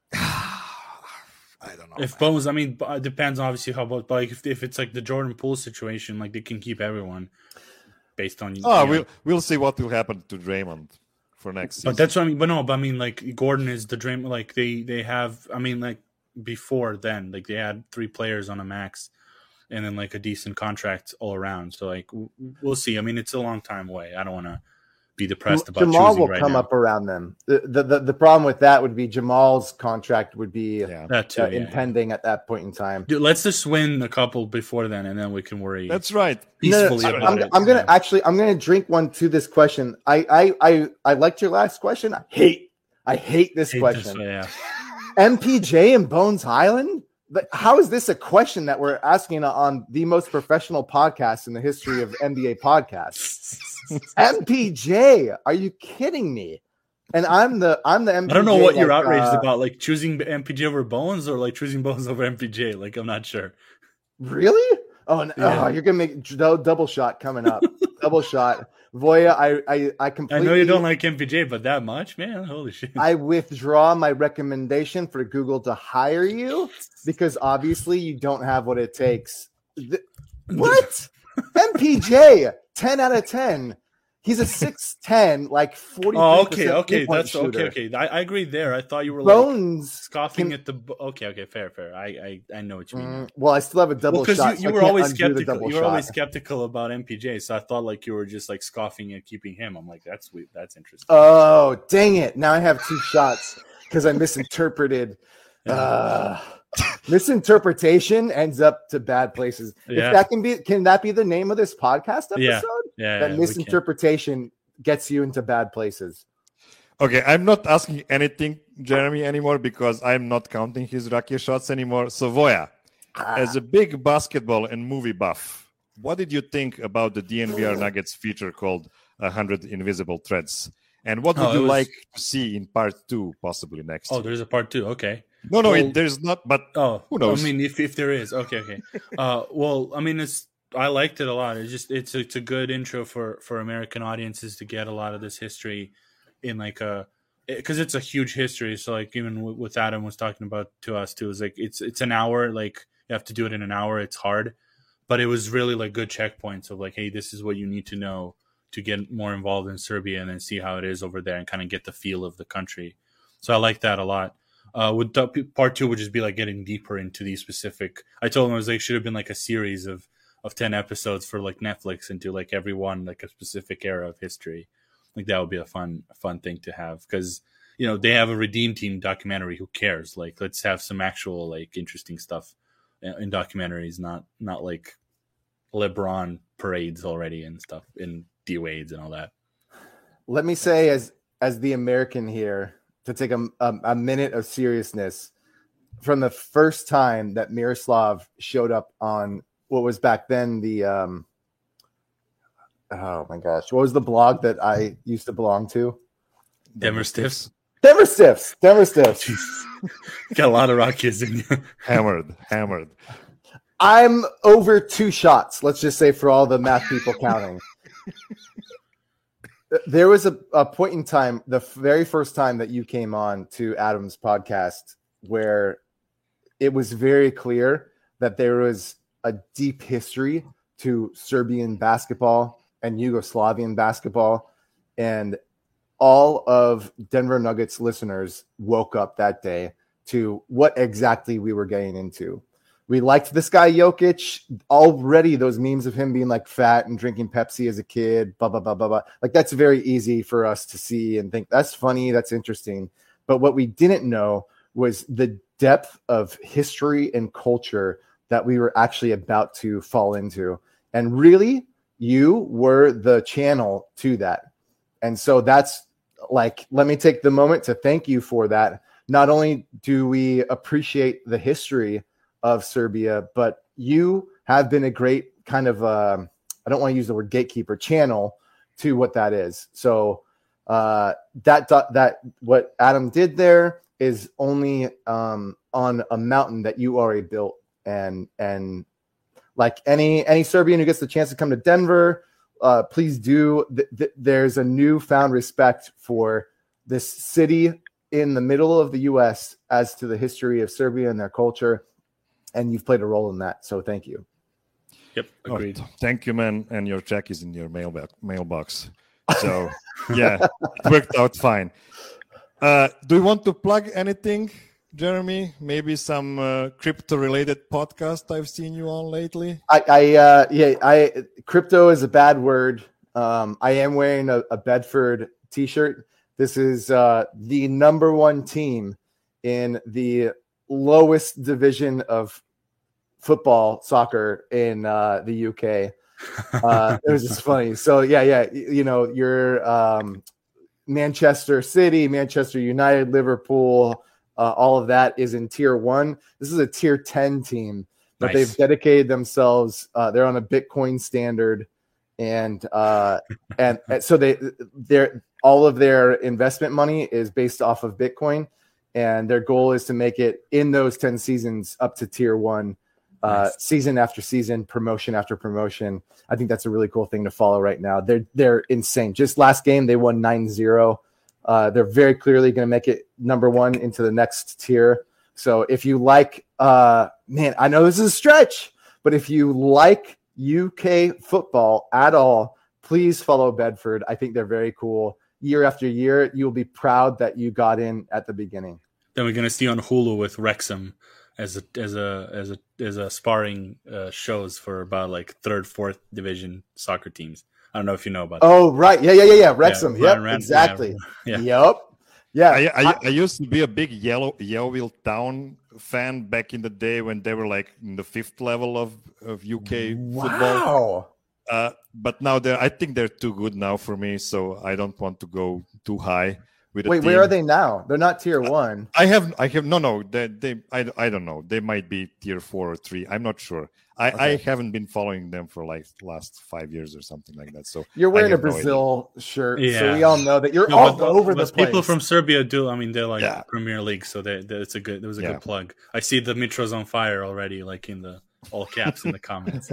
I don't know.
If Bones, I mean, it depends obviously how about, but like if if it's like the Jordan Poole situation, like they can keep everyone. Based on
oh,
you know.
we'll we'll see what will happen to Draymond for next season.
But that's what I mean. But no, but I mean, like Gordon is the Draymond. Like they they have. I mean, like before then, like they had three players on a max, and then like a decent contract all around. So like we'll see. I mean, it's a long time away. I don't want to be depressed about
Jamal
choosing
will
right
come
now.
up around them. The, the the the problem with that would be Jamal's contract would be
yeah.
that too,
uh,
yeah,
impending
yeah.
at that point in time.
Dude, let's just win a couple before then, and then we can worry.
That's right.
Peacefully
no, no,
about
I'm,
it.
I'm gonna
yeah.
actually I'm gonna drink one to this question. I I I, I liked your last question. I hate I hate this
Hate
question.
This, yeah.
M P J and Bones Highland. But how is this a question that we're asking on the most professional podcast in the history of N B A podcasts? M P J, are you kidding me? And I'm the I'm the M P J.
I don't know what
like,
you're outraged
uh,
about, like choosing M P J over Bones or like choosing Bones over M P J. Like I'm not sure.
Really? Oh, no,
Yeah.
oh you're gonna make d- double shot coming up. Double shot. Voya, I I I completely.
I know you don't like M P J, but that much, man. Holy shit.
I withdraw my recommendation for Google to hire you because obviously you don't have what it takes. Th- what? M P J, ten out of ten. He's a six ten, like forty.
Oh, okay, okay,
three-point
that's
shooter.
okay, okay. I, I agree there. I thought you were
Bones
like scoffing
can-
at the. Okay, okay, fair, fair. I, I, I know what you mean.
Mm, well, I still have a double
Well, because
shot.
you, you
so I
were
can't
always
undo the
skeptical.
double
You were always
shot.
skeptical about M P J, so I thought like you were just like scoffing at keeping him. I'm like, that's weird. That's interesting.
Oh, dang it. Now I have two shots because I misinterpreted. Uh, misinterpretation ends up to bad places.
Yeah.
If that can be, can that be the name of this podcast episode?
Yeah. yeah,
That
yeah, we
misinterpretation gets you into bad places.
Okay, I'm not asking anything, Jeremy, anymore because I'm not counting his Rocky shots anymore. So, Voya,
Ah.
as a big basketball and movie buff, what did you think about the D N V R Nuggets feature called one hundred Invisible Threads? And what would
Oh, it
you
was-
like to see in part two, possibly next
Oh,
year?
there's a part two. Okay.
No, no,
well-
it, there's not, but
Oh,
Who knows?
I mean, if if there is, okay, okay. Uh, well, I mean, it's I liked it a lot. It's just it's a, it's a good intro for for American audiences to get a lot of this history in like a because it's a huge history. So like even w- with Adam was talking about to us too, is like it's it's an hour. Like you have to do it in an hour. It's hard, but it was really like good checkpoints of like, hey, this is what you need to know to get more involved in Serbia and then see how it is over there and kind of get the feel of the country. So I like that a lot. Uh, with the, part two would just be like getting deeper into these specific. I told him I was like should have been like a series of of ten episodes for like Netflix into like every one like a specific era of history. Like that would be a fun fun thing to have because you know they have a Redeem Team documentary. Who cares? Like let's have some actual like interesting stuff in documentaries, not not like LeBron parades already and stuff in D Wade's and all that.
Let me say, as as the American here, to take a, a, a minute of seriousness, from the first time that Miroslav showed up on what was back then the um, oh my gosh, what was the blog that I used to belong to?
Denver Stiffs.
Denver Stiffs. Denver Stiffs.
Got a lot of rock kids in you.
Hammered, hammered.
I'm over two shots. Let's just say for all the math people counting. There was a, a point in time, the very first time that you came on to Adam's podcast, where it was very clear that there was a deep history to Serbian basketball and Yugoslavian basketball. And all of Denver Nuggets listeners woke up that day to what exactly we were getting into. We liked this guy Jokic already. Those memes of him being like fat and drinking Pepsi as a kid, blah, blah, blah, blah, blah. Like that's very easy for us to see and think that's funny. That's interesting. But what we didn't know was the depth of history and culture that we were actually about to fall into. And really, you were the channel to that. And so that's like, let me take the moment to thank you for that. Not only do we appreciate the history of Serbia, but you have been a great kind of, uh, I don't want to use the word gatekeeper, channel to what that is. So uh, that, that what Adam did there is only um, on a mountain that you already built. And, and like any, any Serbian who gets the chance to come to Denver, uh, please do. Th- th- there's a newfound respect for this city in the middle of the U S as to the history of Serbia and their culture. And you've played a role in that. So thank you.
Yep. Agreed.
Oh, thank you, man. And your check is in your mailbox. mailbox. So, yeah, it worked out fine. Uh, do you want to plug anything, Jeremy? Maybe some uh, crypto-related podcast I've seen you on lately?
I, I uh, yeah, I crypto is a bad word. Um, I am wearing a, a Bedford t-shirt. This is uh, the number one team in the lowest division of football soccer in uh, the U K. Uh, it was just funny. So yeah, yeah, you know, your um, Manchester City, Manchester United, Liverpool, uh, all of that is in tier one. This is a tier ten team, but nice. They've dedicated themselves. Uh, they're on a Bitcoin standard, and uh, and, and so they they're all of their investment money is based off of Bitcoin. And their goal is to make it in those ten seasons up to tier one, uh, nice. season after season, promotion after promotion. I think that's a really cool thing to follow right now. They're they're insane. Just last game, they won nine zero. Uh, they're very clearly going to make it number one into the next tier. So if you like, uh, man, I know this is a stretch, but if you like U K football at all, please follow Bedford. I think they're very cool. Year after year, you'll be proud that you got in at the beginning.
Then we're gonna see on Hulu with Wrexham as a as a as a as a sparring uh, shows for about like third, fourth division soccer teams. I don't know if you know about.
Oh that. Right, yeah, yeah, yeah, yeah. Wrexham,
yeah,
yep,
Rand,
exactly.
Yeah,
Yep, yeah.
I, I, I used to be a big yellow Yeovil Town fan back in the day when they were like in the fifth level of of U K
wow.
football. Uh, but now they're, I think they're too good now for me, so I don't want to go too high with.
Wait,
team.
where are they now? They're not tier one.
I have, I have, no, no. They, they, I, I don't know. They might be tier four or three. I'm not sure. I, okay. I haven't been following them for like last five years or something like that. So
you're wearing a Brazil
no
shirt,
yeah.
so we all know that you're
no,
all
but,
over
but
the place.
People from Serbia do. I mean, they're like
yeah.
Premier League, so they, they, it's a good. It was a
yeah.
good plug. I see the Mitro's on fire already, like in the. All caps in the comments.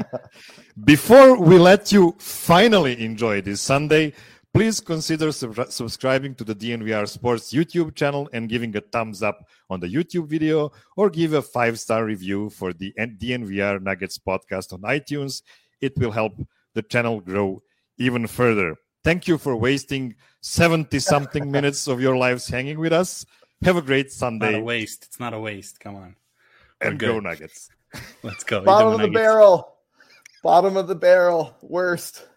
Before we let you finally enjoy this Sunday, please consider sub- subscribing to the D N V R Sports YouTube channel and giving a thumbs up on the YouTube video, or give a five-star review for the D N V R Nuggets podcast on iTunes. It will help the channel grow even further. Thank you for wasting seventy-something minutes of your lives hanging with us. Have a great Sunday.
It's not a waste. It's not a waste. Come on. We're
and
good.
go Nuggets.
Let's go.
Bottom of the barrel. Bottom of the barrel. Worst.